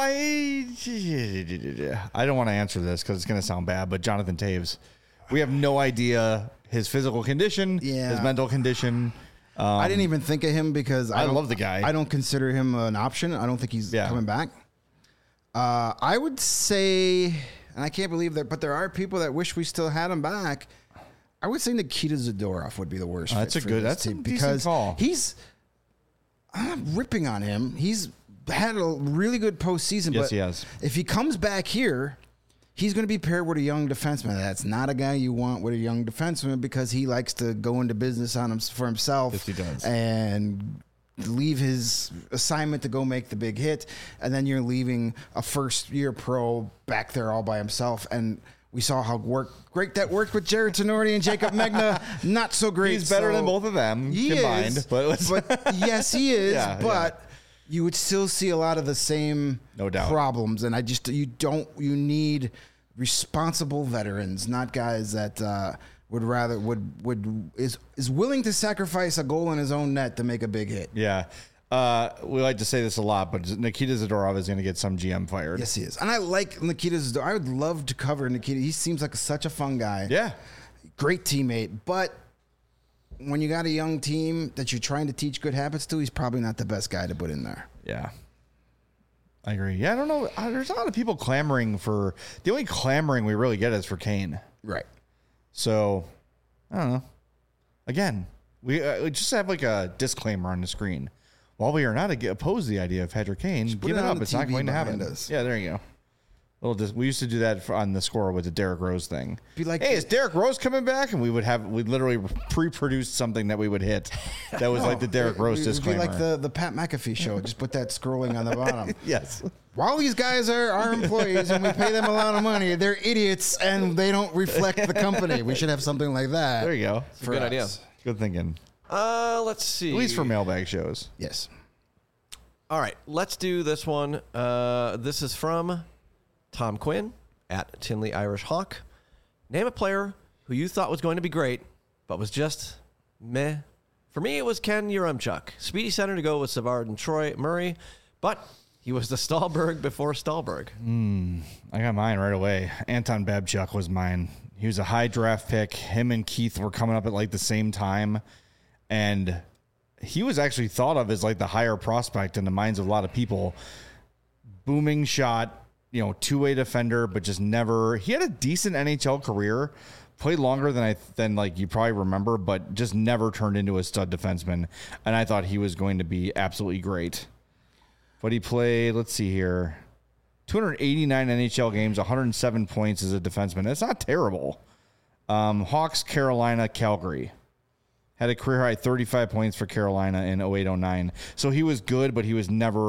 don't want to answer this because it's going to sound bad, but Jonathan Taves. We have no idea his physical condition, his mental condition. I didn't even think of him because I love the guy. I don't consider him an option. I don't think he's coming back. I would say, and I can't believe that, but there are people that wish we still had him back. I would say Nikita Zadorov would be the worst. That's a decent call. I'm not ripping on him. He's had a really good postseason. Yes, but he has. If he comes back here, he's going to be paired with a young defenseman. That's not a guy you want with a young defenseman because he likes to go into business for himself. Yes, he does. And leave his assignment to go make the big hit. And then you're leaving a first-year pro back there all by himself. And we saw how great that worked with Jared Tenorti and Jacob Megna. Not so great. He's better than both of them combined. But yes, he is. You would still see a lot of the same problems. And you need responsible veterans, not guys that is willing to sacrifice a goal in his own net to make a big hit. Yeah. We like to say this a lot, but Nikita Zadorov is going to get some GM fired. Yes, he is. And I like Nikita Zadorov. I would love to cover Nikita. He seems like such a fun guy. Yeah. Great teammate. But when you got a young team that you're trying to teach good habits to, he's probably not the best guy to put in there. Yeah. I agree. Yeah, I don't know. There's a lot of people clamoring for... The only clamoring we really get is for Kane. Right. So, I don't know. Again, we just have like a disclaimer on the screen. While we are not opposed to the idea of Patrick Kane, give it up. It's not going to happen. Yeah, there you go. We used to do that on the score with the Derrick Rose thing. Be like, hey, is Derrick Rose coming back? And we'd literally pre-produced something that we would hit. That was like the Derrick Rose disclaimer. It'd be like the Pat McAfee show. Just put that scrolling on the bottom. Yes. While these guys are our employees and we pay them a lot of money, they're idiots and they don't reflect the company. We should have something like that. There you go. It's a good idea. Good thinking. Let's see. At least for mailbag shows. Yes. All right. Let's do this one. This is from Tom Quinn at Tinley Irish Hawk. Name a player who you thought was going to be great, but was just meh. For me, it was Ken Yaremchuk. Speedy center to go with Savard and Troy Murray, but he was the Stahlberg before Stahlberg. I got mine right away. Anton Babchuk was mine. He was a high draft pick. Him and Keith were coming up at like the same time. And he was actually thought of as like the higher prospect in the minds of a lot of people. Booming shot, two-way defender, but just never. He had a decent NHL career, played longer than like you probably remember, but just never turned into a stud defenseman. And I thought he was going to be absolutely great. But he played, let's see here, 289 NHL games, 107 points as a defenseman. That's not terrible. Hawks, Carolina, Calgary. Had a career high 35 points for Carolina in 08-09. So he was good, but he was a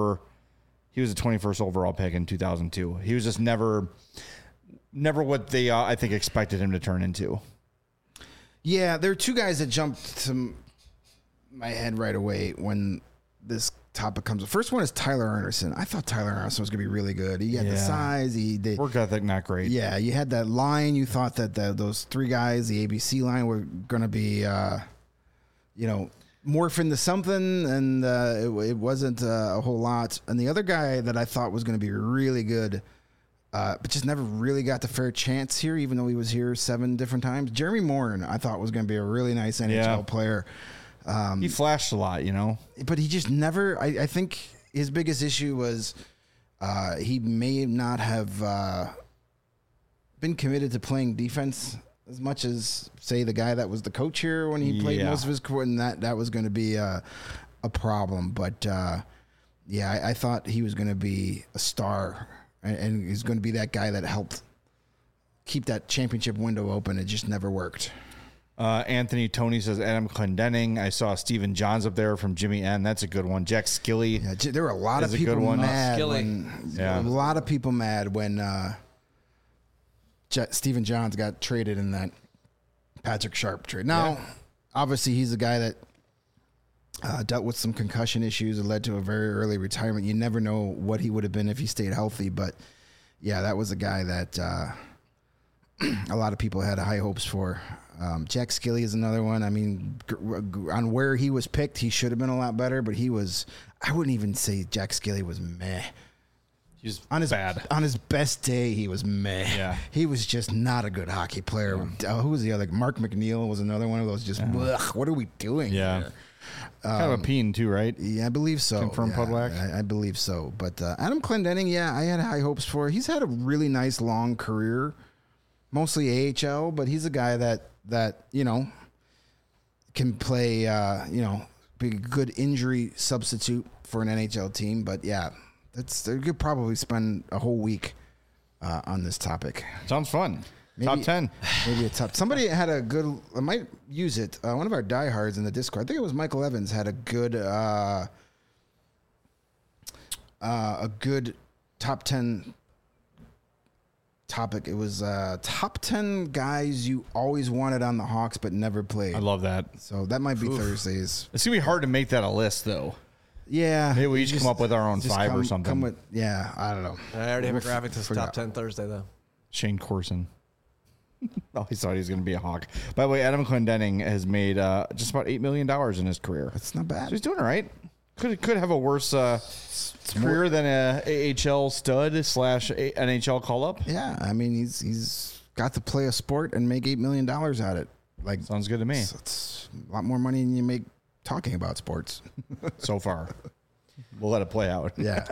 21st overall pick in 2002. He was just never what they, I think, expected him to turn into. Yeah, there are two guys that jumped to my head right away when this topic comes up. First one is Tyler Anderson. I thought Tyler Anderson was going to be really good. He had the size. Work ethic, not great. Yeah, you had that line. You thought that those three guys, the ABC line, were going to be, morph into something, and it wasn't a whole lot. And the other guy that I thought was going to be really good, but just never really got the fair chance here, even though he was here 7 different times. Jeremy Morin, I thought was going to be a really nice NHL player. He flashed a lot, but he just never. I think his biggest issue was he may not have been committed to playing defense as much as, say, the guy that was the coach here when he played most of his career, and that was going to be a a problem. But yeah, I thought he was going to be a star, and he's going to be that guy that helped keep that championship window open. It just never worked. Anthony Tony says Adam Clendenning. I saw Stephen Johns up there from Jimmy N. That's a good one. Jack Skilly. Yeah, there were a lot of is a people good one. mad. Skilly. Yeah. A lot of people mad when Stephen Johns got traded in that Patrick Sharp trade. Now, obviously, he's a guy that dealt with some concussion issues and led to a very early retirement. You never know what he would have been if he stayed healthy. But, yeah, that was a guy that a lot of people had high hopes for. Jack Skilly is another one. I mean, on where he was picked, he should have been a lot better, but he was, I wouldn't even say Jack Skilly was meh. He's On his bad. On his best day, he was meh. Yeah. He was just not a good hockey player. Who was the other? Mark McNeil was another one of those just, ugh, what are we doing? Yeah. Kind of a peen, too, right? Yeah, I believe so. Confirmed yeah, Pudwack? I believe so. But Adam Clendenning, yeah, I had high hopes for. He's had a really nice long career, mostly AHL, but he's a guy that you know can play, you know, be a good injury substitute for an NHL team. But yeah, they could probably spend a whole week on this topic. Sounds fun. Top 10. Maybe a top. Somebody had a good. I might use it. One of our diehards in the Discord, I think it was Michael Evans, had a good top 10 topic. It was top 10 guys you always wanted on the Hawks but never played. I love that. So that might be Thursdays. It's going to be hard to make that a list, though. Yeah. Maybe we each come up with our own just 5 or something. Come with, yeah, I don't know. I already have a graphic to Forgot. top 10 Thursday, though. Shane Corson. Always thought he was going to be a Hawk. By the way, Adam Clendenning has made just about $8 million in his career. That's not bad. So he's doing all right. Could have a worse career than a AHL stud / NHL call up. Yeah, I mean he's got to play a sport and make $8 million at it. Like Sounds good to me. it's a lot more money than you make talking about sports. So far. We'll let it play out. Yeah.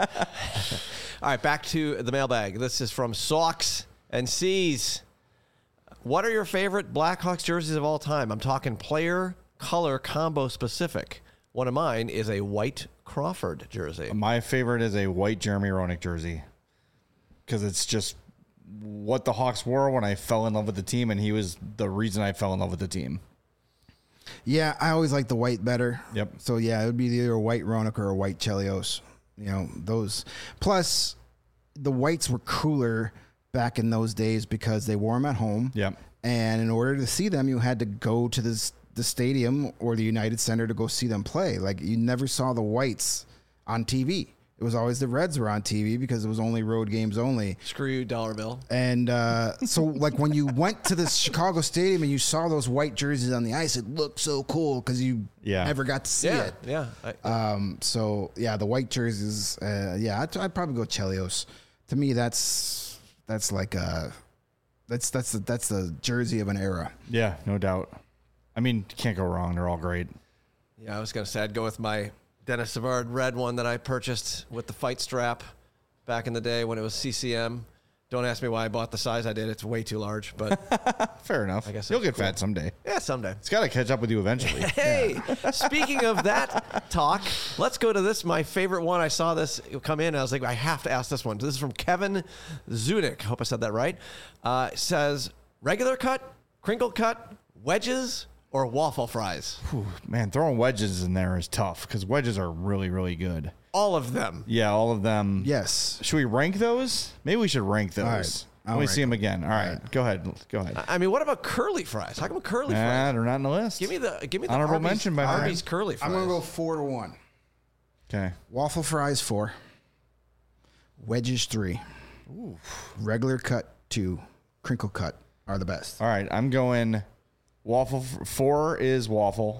All right, back to the mailbag. This is from Socks and C's. What are your favorite Blackhawks jerseys of all time? I'm talking player, color, combo specific. One of mine is a white Crawford jersey. My favorite is a white Jeremy Roenick jersey because it's just what the Hawks wore when I fell in love with the team, and he was the reason I fell in love with the team. Yeah, I always like the white better. Yep. So yeah, it would be either a white Roenick or a white Chelios. You know, those. Plus, the whites were cooler back in those days because they wore them at home. Yep. And in order to see them, you had to go to the stadium or the United Center to go see them play. Like you never saw the whites on TV. It was always the Reds were on TV because it was only road games only. Screw you, dollar bill. And so, like, when you went to the Chicago Stadium and you saw those white jerseys on the ice, it looked so cool because you never got to see it. Yeah. So, yeah, the white jerseys, I'd probably go Chelios. To me, that's like that's the jersey of an era. Yeah, no doubt. I mean, you can't go wrong. They're all great. Yeah, I was going to say I'd go with my Dennis Savard red one that I purchased with the fight strap back in the day when it was CCM. Don't ask me why I bought the size I did. It's way too large, but Fair enough. I guess You'll that's get fat someday. yeah, someday. It's got to catch up with you eventually. Hey, speaking of that talk, let's go to this. My favorite one. I saw this come in. And I was like, I have to ask this one. This is from Kevin Zunick. Hope I said that right. It says regular cut, crinkle cut, wedges, or waffle fries. Whew, man, throwing wedges in there is tough because wedges are really, really good. All of them. Yeah, all of them. Yes. Should we rank those? Maybe we should rank those. right. Let I'll me rank see them again. All right. Go ahead. I mean, what about curly fries? How come curly fries? They're not on the list. Give me the Honorable Arby's, mention by mine. Arby's curly fries. I'm going to go 4-1. Okay. Waffle fries 4. Wedges 3. Ooh. Regular cut 2. Crinkle cut are the best. All right. I'm going waffle. 4 is waffle.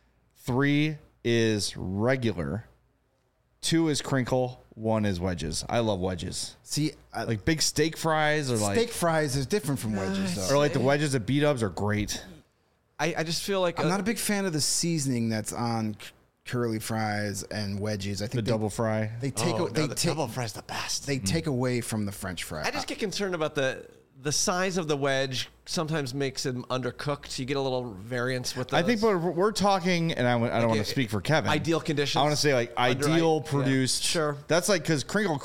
3 is regular. 2 is crinkle. 1 is wedges. I love wedges. See, Like big steak fries or steak fries is different from wedges, though. or like the wedges at B-dubs are great. I just feel like I'm not a big fan of the seasoning that's on curly fries and wedges. I think The double fry. they take the they take double fries the best. they take away from the French fry. I just get concerned about the the size of the wedge sometimes makes him undercooked. You get a little variance with those. I think we're talking, and I don't want to speak for Kevin. Ideal conditions. I want to say like ideal produced. Yeah, sure. That's like because crinkle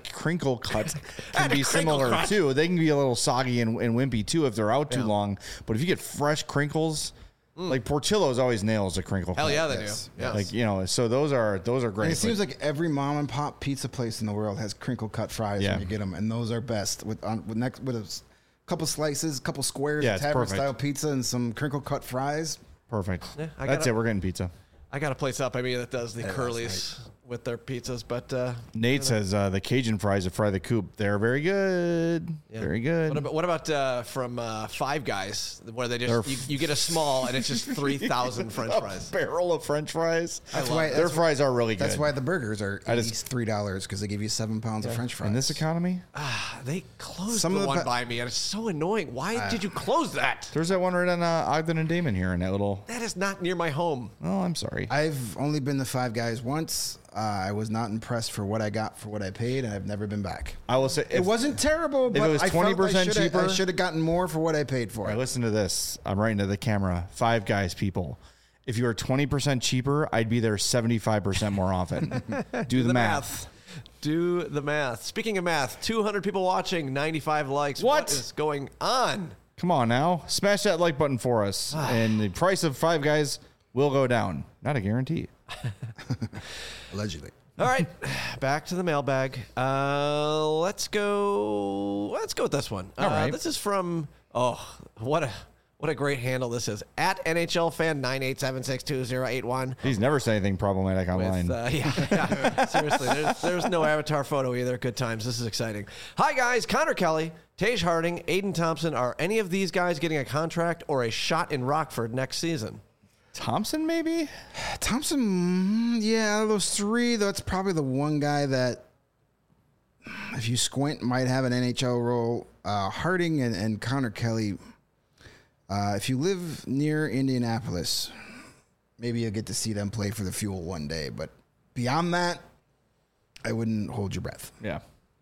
cuts can be similar too. They can be a little soggy and wimpy too if they're out too long. But if you get fresh crinkles, like Portillo's always nails a crinkle cut. Hell yeah, they do. Yeah. Like, so those are great. And it seems like every mom and pop pizza place in the world has crinkle cut fries when you get them, and those are best with a couple slices, couple squares of tavern style pizza, and some crinkle cut fries. Perfect. Yeah, that's it. We're getting pizza. I got a place up. I mean, that does the Curly's with their pizzas, but Nate says the Cajun fries at Fry the Coop, they're very good. Yeah. Very good. What about from Five Guys, where they just you get a small and it's just 3,000 French fries, a barrel of French fries. Their fries are really good. That's why the burgers are at least $3 because they give you 7 pounds of French fries. In this economy, they closed the one by me, and it's so annoying. Why did you close that? There's that one right on Ogden and Damon here in that little. That is not near my home. Oh, I'm sorry. I've only been to Five Guys once. I was not impressed for what I got for what I paid, and I've never been back. I will say it wasn't terrible, but if it was 20% cheaper, I should have gotten more for what I paid for. All right, listen to this. I'm writing to the camera. Five Guys people. If you were 20% cheaper, I'd be there 75% more often. Do the math. Do the math. Speaking of math, 200 people watching, 95 likes. What is going on? Come on now. Smash that like button for us. And the price of Five Guys will go down. Not a guarantee. Allegedly. All right, back to the mailbag. Let's go with this one. All right. This is from what a great handle this is, at NHL fan 987628081. He's never said anything problematic online. Seriously, there's no avatar photo either. Good times. This is exciting. Hi guys, Connor Kelly, Tage Harding, Aiden Thompson. Are any of these guys getting a contract or a shot in Rockford next season? Thompson, maybe? Thompson, yeah, out of those three, that's probably the one guy that, if you squint, might have an NHL role. Harding and Connor Kelly, if you live near Indianapolis, maybe you'll get to see them play for the Fuel one day. But beyond that, I wouldn't hold your breath. Yeah.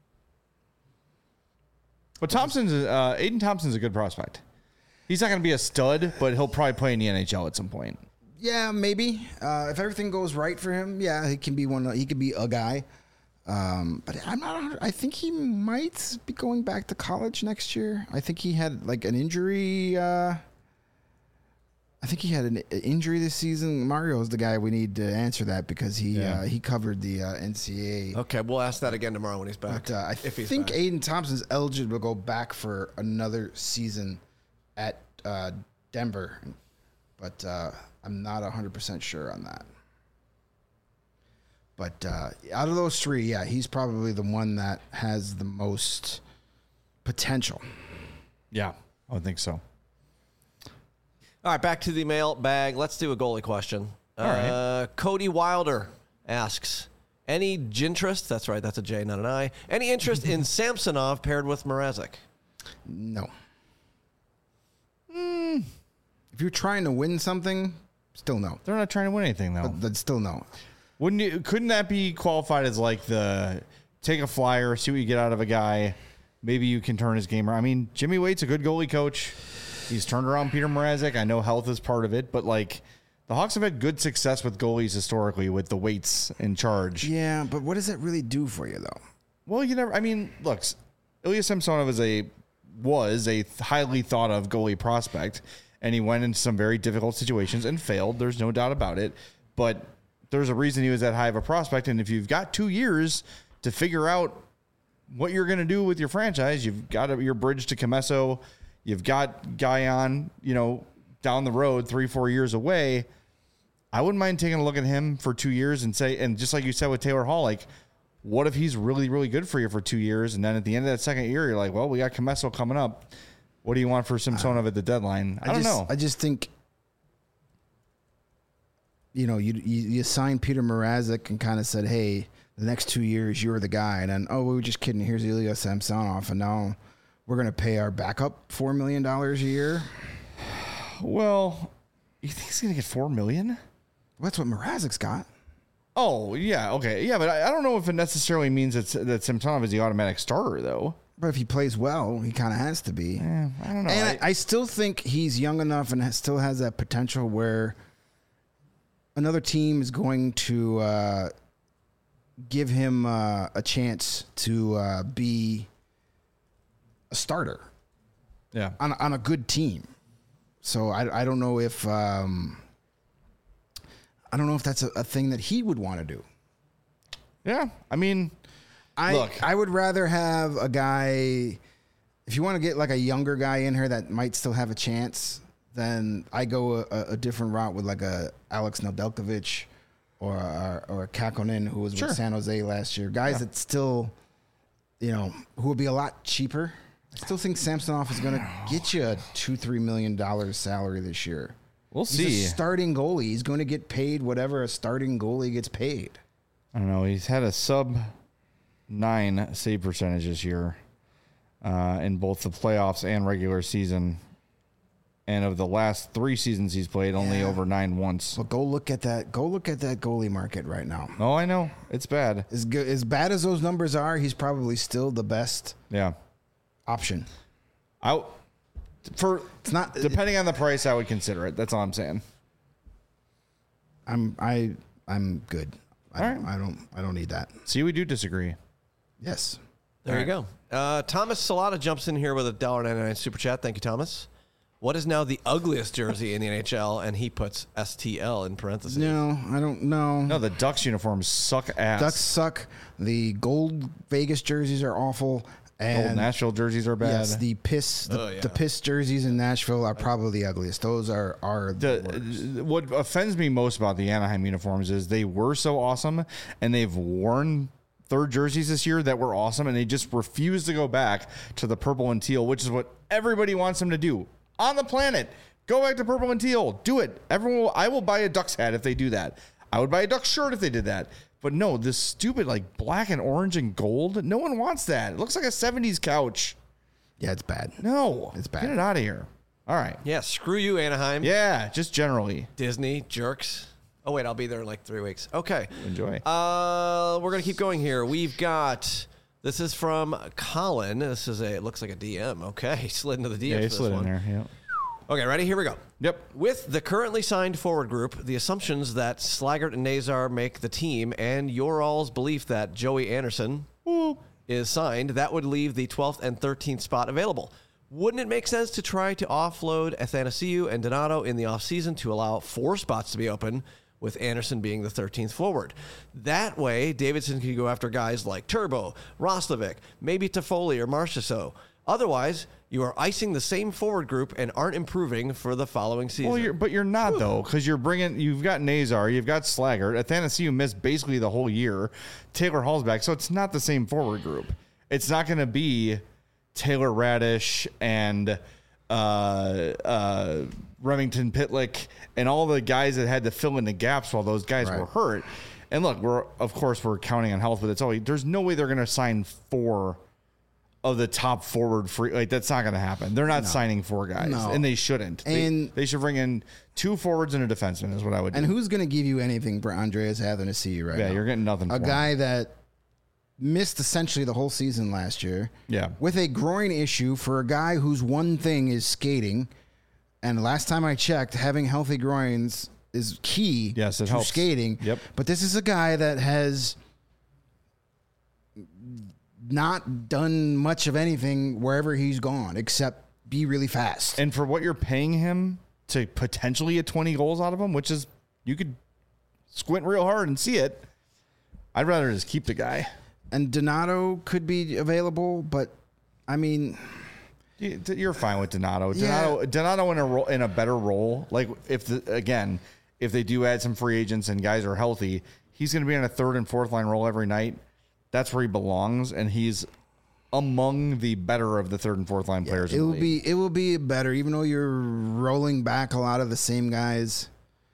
But Aiden Thompson's a good prospect. He's not going to be a stud, but he'll probably play in the NHL at some point. Yeah, maybe. If everything goes right for him, yeah, he can be one. He could be a guy. But I'm not. I think he might be going back to college next year. I think he had like an injury. I think he had an injury this season. Mario's the guy we need to answer that because he covered the NCAA. Okay, we'll ask that again tomorrow when he's back. But I think Aiden Thompson's eligible to go back for another season at Denver, but I'm not 100% sure on that. But out of those three, yeah, he's probably the one that has the most potential. Yeah, I would think so. All right, back to the mailbag. Let's do a goalie question. All right. Cody Wilder asks, any interest, that's right, that's a J, not an I, any interest in Samsonov paired with Mrazek? No. If you're trying to win something, still no. They're not trying to win anything, though. But still no. Couldn't that be qualified as like the take a flyer, see what you get out of a guy? Maybe you can turn his game around. I mean, Jimmy Waite's a good goalie coach. He's turned around Peter Mrazek. I know health is part of it, but like the Hawks have had good success with goalies historically with the Waits in charge. Yeah, but what does that really do for you, though? Well, look, Ilya Samsonov was a highly thought of goalie prospect, and he went into some very difficult situations and failed. There's no doubt about it. But there's a reason he was that high of a prospect. And if you've got 2 years to figure out what you're going to do with your franchise, you've got your bridge to Comesso. You've got Guyon, down the road 3-4 years away. I wouldn't mind taking a look at him for 2 years and just like you said with Taylor Hall, like, what if he's really, really good for you for 2 years? And then at the end of that second year, you're like, well, we got Comesso coming up. What do you want for Samsonov at the deadline? I don't know. I just think, you signed Peter Mrazek and kind of said, hey, the next 2 years, you're the guy. And then, we were just kidding. Here's Ilya Samsonov. And now we're going to pay our backup $4 million a year. Well, you think he's going to get $4 million? Well, that's what Mrazek's got. Oh, yeah. Okay. Yeah, but I don't know if it necessarily means that Samsonov is the automatic starter, though. But if he plays well, he kind of has to be. I don't know. And I still think he's young enough and still has that potential where another team is going to give him a chance to be a starter. Yeah. On a good team. So I don't know if that's a thing that he would want to do. Yeah. I mean, I would rather have a guy, if you want to get like a younger guy in here that might still have a chance, then I go a different route with like a Alex Nedeljkovic or a Kakkonen who was with San Jose last year. Guys that still, who would be a lot cheaper. I still think Samsonov is going to get you a $2-3 million salary this year. We'll see. He's a starting goalie. He's going to get paid whatever a starting goalie gets paid. I don't know. He's had a sub-9 save percentage this year in both the playoffs and regular season. And of the last 3 seasons he's played, only over 9 once. Well, go look at that. Go look at that goalie market right now. Oh, I know. It's bad. As bad as those numbers are, he's probably still the best option. It's not depending on the price, I would consider it. That's all I'm saying. I'm good. I don't need that. See, we do disagree. Yes. There you go. Thomas Salata jumps in here with a $1.99 super chat. Thank you, Thomas. What is now the ugliest jersey in the NHL? And he puts STL in parentheses. No, I don't know. No, the Ducks uniforms suck ass. Ducks suck. The gold Vegas jerseys are awful. And gold Nashville jerseys are bad. Yes, the piss jerseys in Nashville are probably the ugliest. Those are the worst. What offends me most about the Anaheim uniforms is they were so awesome, and they've worn third jerseys this year that were awesome, and they just refuse to go back to the purple and teal, which is what everybody wants them to do on the planet. Go back to purple and teal. Do it. I will buy a Ducks hat if they do that. I would buy a Ducks shirt if they did that. But no, this stupid like black and orange and gold, no one wants that. It looks like a 70s couch. Yeah, it's bad. No. It's bad. Get it out of here. All right. Yeah, screw you, Anaheim. Yeah, just generally. Disney, jerks. Oh, wait, I'll be there in like 3 weeks. Okay. Enjoy. We're going to keep going here. We've got, this is from Colin. It looks like a DM. Okay, he slid into the DM. Yeah, he slid in there. Yeah. Okay, ready? Here we go. Yep. With the currently signed forward group, the assumptions that Slaggert and Nazar make the team, and your all's belief that Joey Anderson is signed, that would leave the 12th and 13th spot available. Wouldn't it make sense to try to offload Athanasiou and Donato in the offseason to allow 4 spots to be open, with Anderson being the 13th forward? That way, Davidson can go after guys like Turbo, Roslovic, maybe Toffoli or Marchessault. Otherwise, you are icing the same forward group and aren't improving for the following season. Well, but you're not, though, because you've got Nazar, you've got Slaggert. Athanasiou missed basically the whole year. Taylor Hall's back, so it's not the same forward group. It's not going to be Taylor Radish and Remington Pitlick and all the guys that had to fill in the gaps while those guys were hurt. And look, we're counting on health, but there's no way they're going to sign 4 of the top forward free. Like, that's not going to happen. They're not signing 4 guys, and they shouldn't. And they should bring in 2 forwards and a defenseman is what I would do. And who's going to give you anything for Andreas Athanasiou right now? Yeah, you're getting nothing for a guy that missed essentially the whole season last year. Yeah. With a groin issue for a guy whose one thing is skating. And last time I checked, having healthy groins is key to helps. Skating. Yep. But this is a guy that has not done much of anything wherever he's gone except be really fast. And for what you're paying him to potentially get 20 goals out of him, which is, you could squint real hard and see it, I'd rather just keep the guy. And Donato could be available, but I mean, you're fine with Donato. Yeah. Donato in a better role. Like if they do add some free agents and guys are healthy, he's going to be on a 3rd and 4th line role every night. That's where he belongs, and he's among the better of the 3rd and 4th line players. It will be better, even though you're rolling back a lot of the same guys.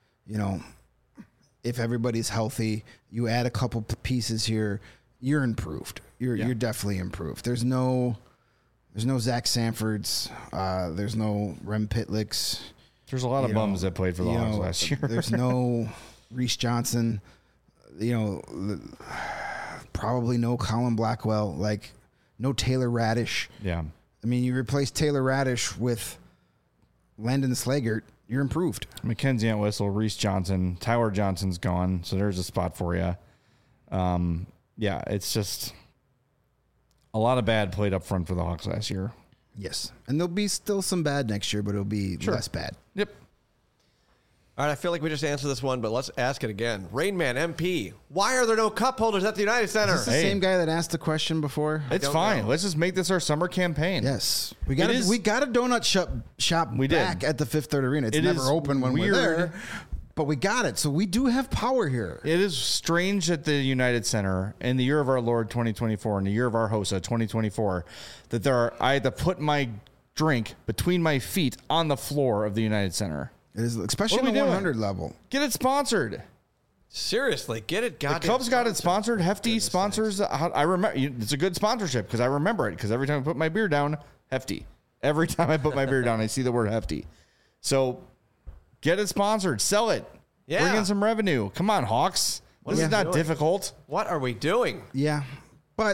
If everybody's healthy, you add a couple pieces here, you're improved. You're definitely improved. There's no Zach Sanfords. There's no Rem Pitlicks. There's a lot of bums that played for the Hawks last year. There's no Reese Johnson. Probably no Colin Blackwell. Like, no Taylor Radish. Yeah. I mean, you replace Taylor Radish with Landon Slaggert, you're improved. Mackenzie Entwistle, Reese Johnson, Tyler Johnson's gone, so there's a spot for you. Yeah, it's just a lot of bad played up front for the Hawks last year. Yes. And there'll be still some bad next year, but it'll be less bad. Yep. All right, I feel like we just answered this one, but let's ask it again. Rainman MP, why are there no cup holders at the United Center? Is this the same guy that asked the question before? It's fine. Let's just make this our summer campaign. Yes. We got a donut shop back at the Fifth Third Arena. It's never open when we're there, but we got it. So we do have power here. It is strange at the United Center in the year of our Lord 2024 and the year of our HOSA 2024 that I had to put my drink between my feet on the floor of the United Center. It is, especially in the 100 level. Get it sponsored. Seriously, get it. The Cubs got it sponsored. Hefty sponsors. I remember. It's a good sponsorship because I remember it. Because every time I put my beer down, Hefty. Every time I put my beer down, I see the word Hefty. So get it sponsored. Sell it. Yeah. Bring in some revenue. Come on, Hawks. This is not difficult. What are we doing? Yeah, but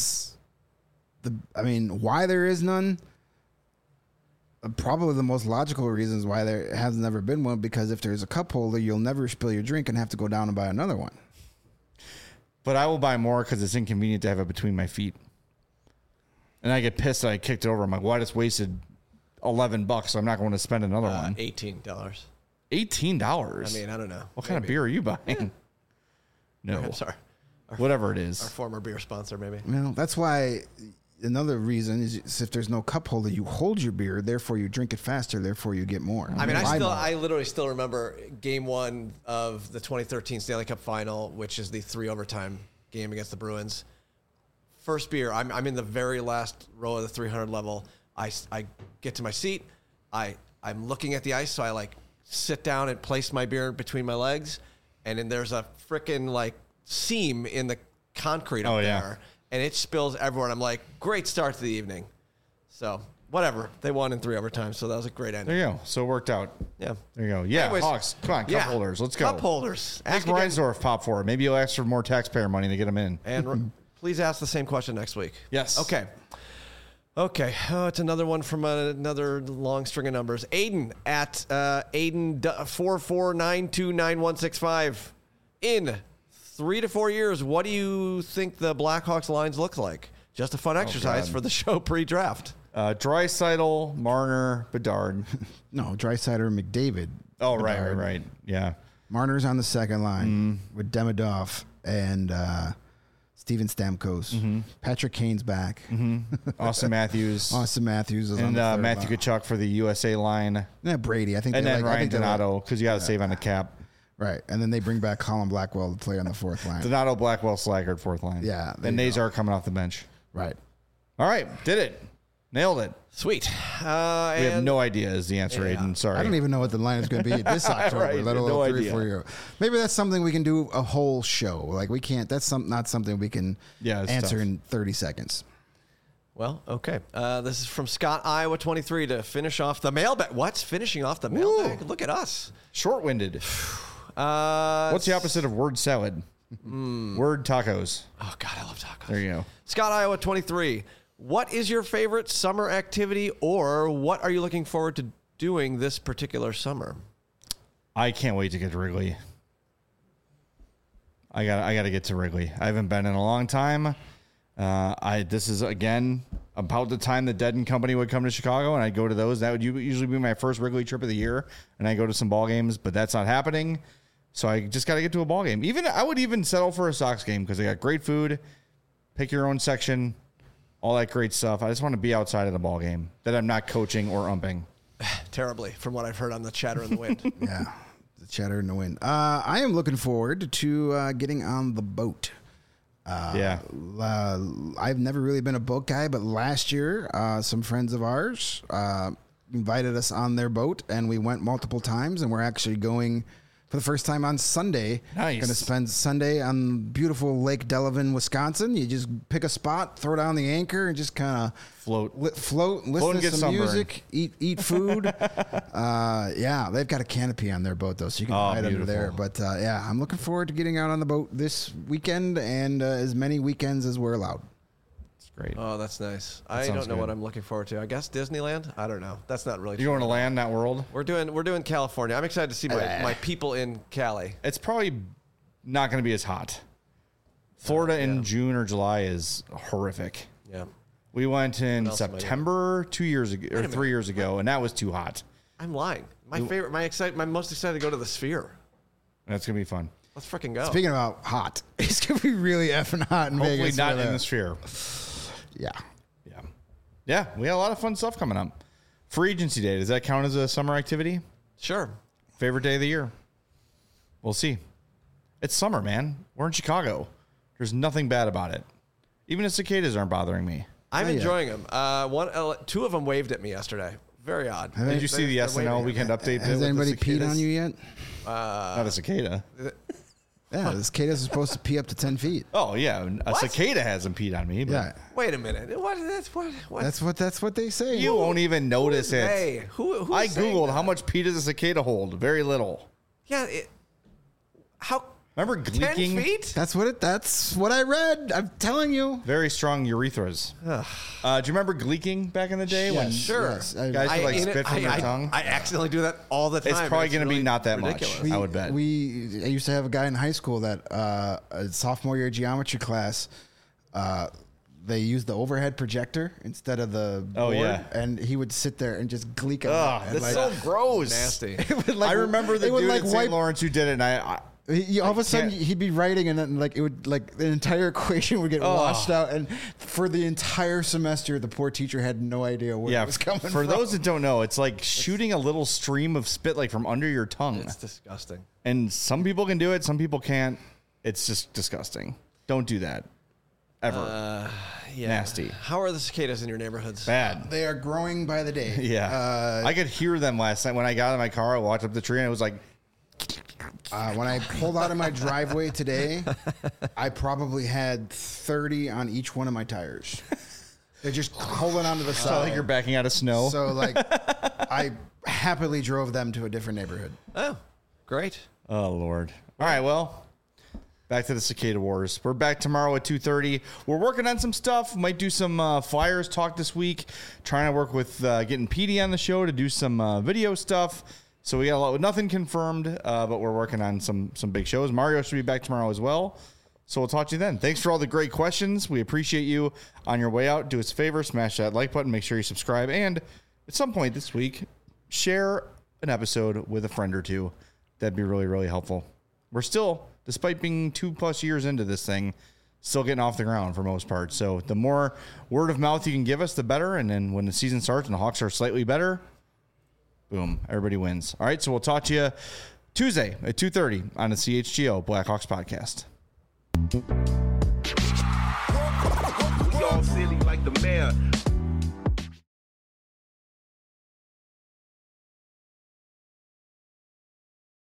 why there is none? Probably the most logical reasons why there has never been one, because if there's a cup holder, you'll never spill your drink and have to go down and buy another one. But I will buy more because it's inconvenient to have it between my feet. And I get pissed that I kicked it over. I'm like, well, I just wasted $11, so I'm not going to spend another one. $18. $18? I mean, I don't know. What kind of beer are you buying? No. I'm sorry. Whatever it is. Our former beer sponsor, maybe. Well, that's why another reason is if there's no cup holder, you hold your beer, therefore you drink it faster, therefore you get more. I mean, I literally still remember Game 1 of the 2013 Stanley Cup Final, which is the 3 overtime game against the Bruins. First beer, I'm in the very last row of the 300 level. I get to my seat. I'm looking at the ice, so I sit down and place my beer between my legs, and then there's a freaking seam in the concrete up there. And it spills everywhere. And I'm like, great start to the evening. So, whatever. They won in 3 overtime, so that was a great ending. There you go. So it worked out. Yeah. There you go. Yeah, Anyways, Hawks. Come on, cup holders. Let's go. Cup holders. Make Reinsdorf pop for it. Maybe you'll ask for more taxpayer money to get them in. And please ask the same question next week. Yes. Okay. Oh, it's another one from another long string of numbers. Aiden at Aiden 44929165 in 3 to 4 years, what do you think the Blackhawks lines look like? Just a fun exercise for the show pre-draft. Draisaitl, Marner, Bedard. No, Draisaitl, McDavid. Oh, Bedard. right. Yeah. Marner's on the second line with Demidov and Steven Stamkos. Mm-hmm. Patrick Kane's back. Austin Matthews. Austin Matthews is on and the third Matthew line. Kachuk for the USA line. Yeah, Brady. I think. And then Ryan they Donato, because you got to save on the cap. Right, and then they bring back Colin Blackwell to play on the fourth line. Donato, Blackwell, Slaggard, fourth line. Yeah, And Nazar coming off the bench. Right. All right. Did it. Nailed it. Sweet. We have no idea is the answer, Aiden. Sorry. I don't even know what the line is going to be this October, Right, let alone no 3 idea. or 4 years. Maybe that's something we can do a whole show. We can't. That's not something we can answer in 30 seconds. Well, okay. This is from Scott, Iowa 23 to finish off the mailbag. What's finishing off the mailbag? Look at us. Short-winded. What's the opposite of word salad? Word tacos. Oh, God, I love tacos. There you go. Scott, Iowa 23. What is your favorite summer activity, or what are you looking forward to doing this particular summer? I can't wait to get to Wrigley. I got to get to Wrigley. I haven't been in a long time. This is, again, about the time the Dead and Company would come to Chicago, and I'd go to those. That would usually be my first Wrigley trip of the year, and I go to some ball games, but that's not happening. So I just got to get to a ball game. I would even settle for a Sox game because they got great food, pick your own section, all that great stuff. I just want to be outside of the ball game that I'm not coaching or umping. Terribly, from what I've heard on the chatter in the wind. Yeah, the chatter in the wind. I am looking forward to getting on the boat. I've never really been a boat guy, but last year, some friends of ours invited us on their boat, and we went multiple times, and we're actually going for the first time on Sunday. Nice. Going to spend Sunday on beautiful Lake Delavan, Wisconsin. You just pick a spot, throw down the anchor, and just kind of float, listen and to get some sunburned. music, eat food. They've got a canopy on their boat, though, so you can hide under there. But, I'm looking forward to getting out on the boat this weekend and as many weekends as we're allowed. Great. Oh, that's nice. I sounds don't know good. what I'm looking forward to. I guess Disneyland. I don't know. That's not really. You're going to land that world? We're doing California. I'm excited to see my people in Cali. It's probably not going to be as hot. Florida in June or July is horrific. Yeah. We went in else am I September 2 years ago or 3 years ago, and that was too hot. I'm lying. My most excited to go to the Sphere. That's going to be fun. Let's freaking go. Speaking about hot, it's gonna be really effing hot in Hopefully Vegas. not in the Sphere. Yeah. Yeah, we got a lot of fun stuff coming up. Free agency day, does that count as a summer activity? Sure. Favorite day of the year? We'll see. It's summer, man. We're in Chicago. There's nothing bad about it. Even the cicadas aren't bothering me. I'm enjoying them. Two of them waved at me yesterday. Very odd. Did you see the they're SNL waving. weekend update? Has anybody peed on you yet? Not a cicada. Yeah, the cicadas are supposed to pee up to 10 feet. Oh, yeah. A cicada hasn't peed on me. But Yeah. Wait a minute. What? That's what they say. You won't even notice it. Hey, who? I Googled how much pee does a cicada hold. Very little. Yeah. How? Remember 10 gleeking? feet? That's what I read. I'm telling you. Very strong urethras. Do you remember gleeking back in the day? when Sure. Yes. guys would like spit from their tongue? I accidentally do that all the time. It's probably going to be really not that ridiculous. much. I would bet. I used to have a guy in high school that a sophomore year geometry class. They used the overhead projector instead of the board, yeah. and he would sit there and just gleek on Ugh, it. And that's so gross. Nasty. I remember the it would, dude like, at St. wipe- Lawrence who did it, and all of a sudden can't- he'd be writing, and then it would the entire equation would get washed out, and for the entire semester, the poor teacher had no idea where it was coming from. For those that don't know, it's like shooting a little stream of spit like from under your tongue. It's disgusting. And some people can do it, some people can't. It's just disgusting. Don't do that. Ever. Yeah. Nasty. How are the cicadas in your neighborhoods? Bad. They are growing by the day. Yeah. I could hear them last night when I got in my car. I walked up the tree and it was like, When I pulled out of my driveway today, I probably had 30 on each one of my tires. They're just holding onto the it's side. not like you're backing out of snow. So I happily drove them to a different neighborhood. Oh, great. Oh, Lord. All right, well, back to the Cicada Wars. We're back tomorrow at 2:30. We're working on some stuff. Might do some Flyers talk this week. Trying to work with getting Petey on the show to do some video stuff. So we got nothing confirmed, but we're working on some big shows. Mario should be back tomorrow as well. So we'll talk to you then. Thanks for all the great questions. We appreciate you. On your way out, do us a favor, smash that like button, make sure you subscribe, and at some point this week, share an episode with a friend or two. That'd be really, really helpful. We're still, despite being 2+ years into this thing, still getting off the ground for most part. So the more word of mouth you can give us, the better. And then when the season starts and the Hawks are slightly better, boom, everybody wins. All right, so we'll talk to you Tuesday at 2:30 on the CHGO Blackhawks podcast. We all silly like the mayor.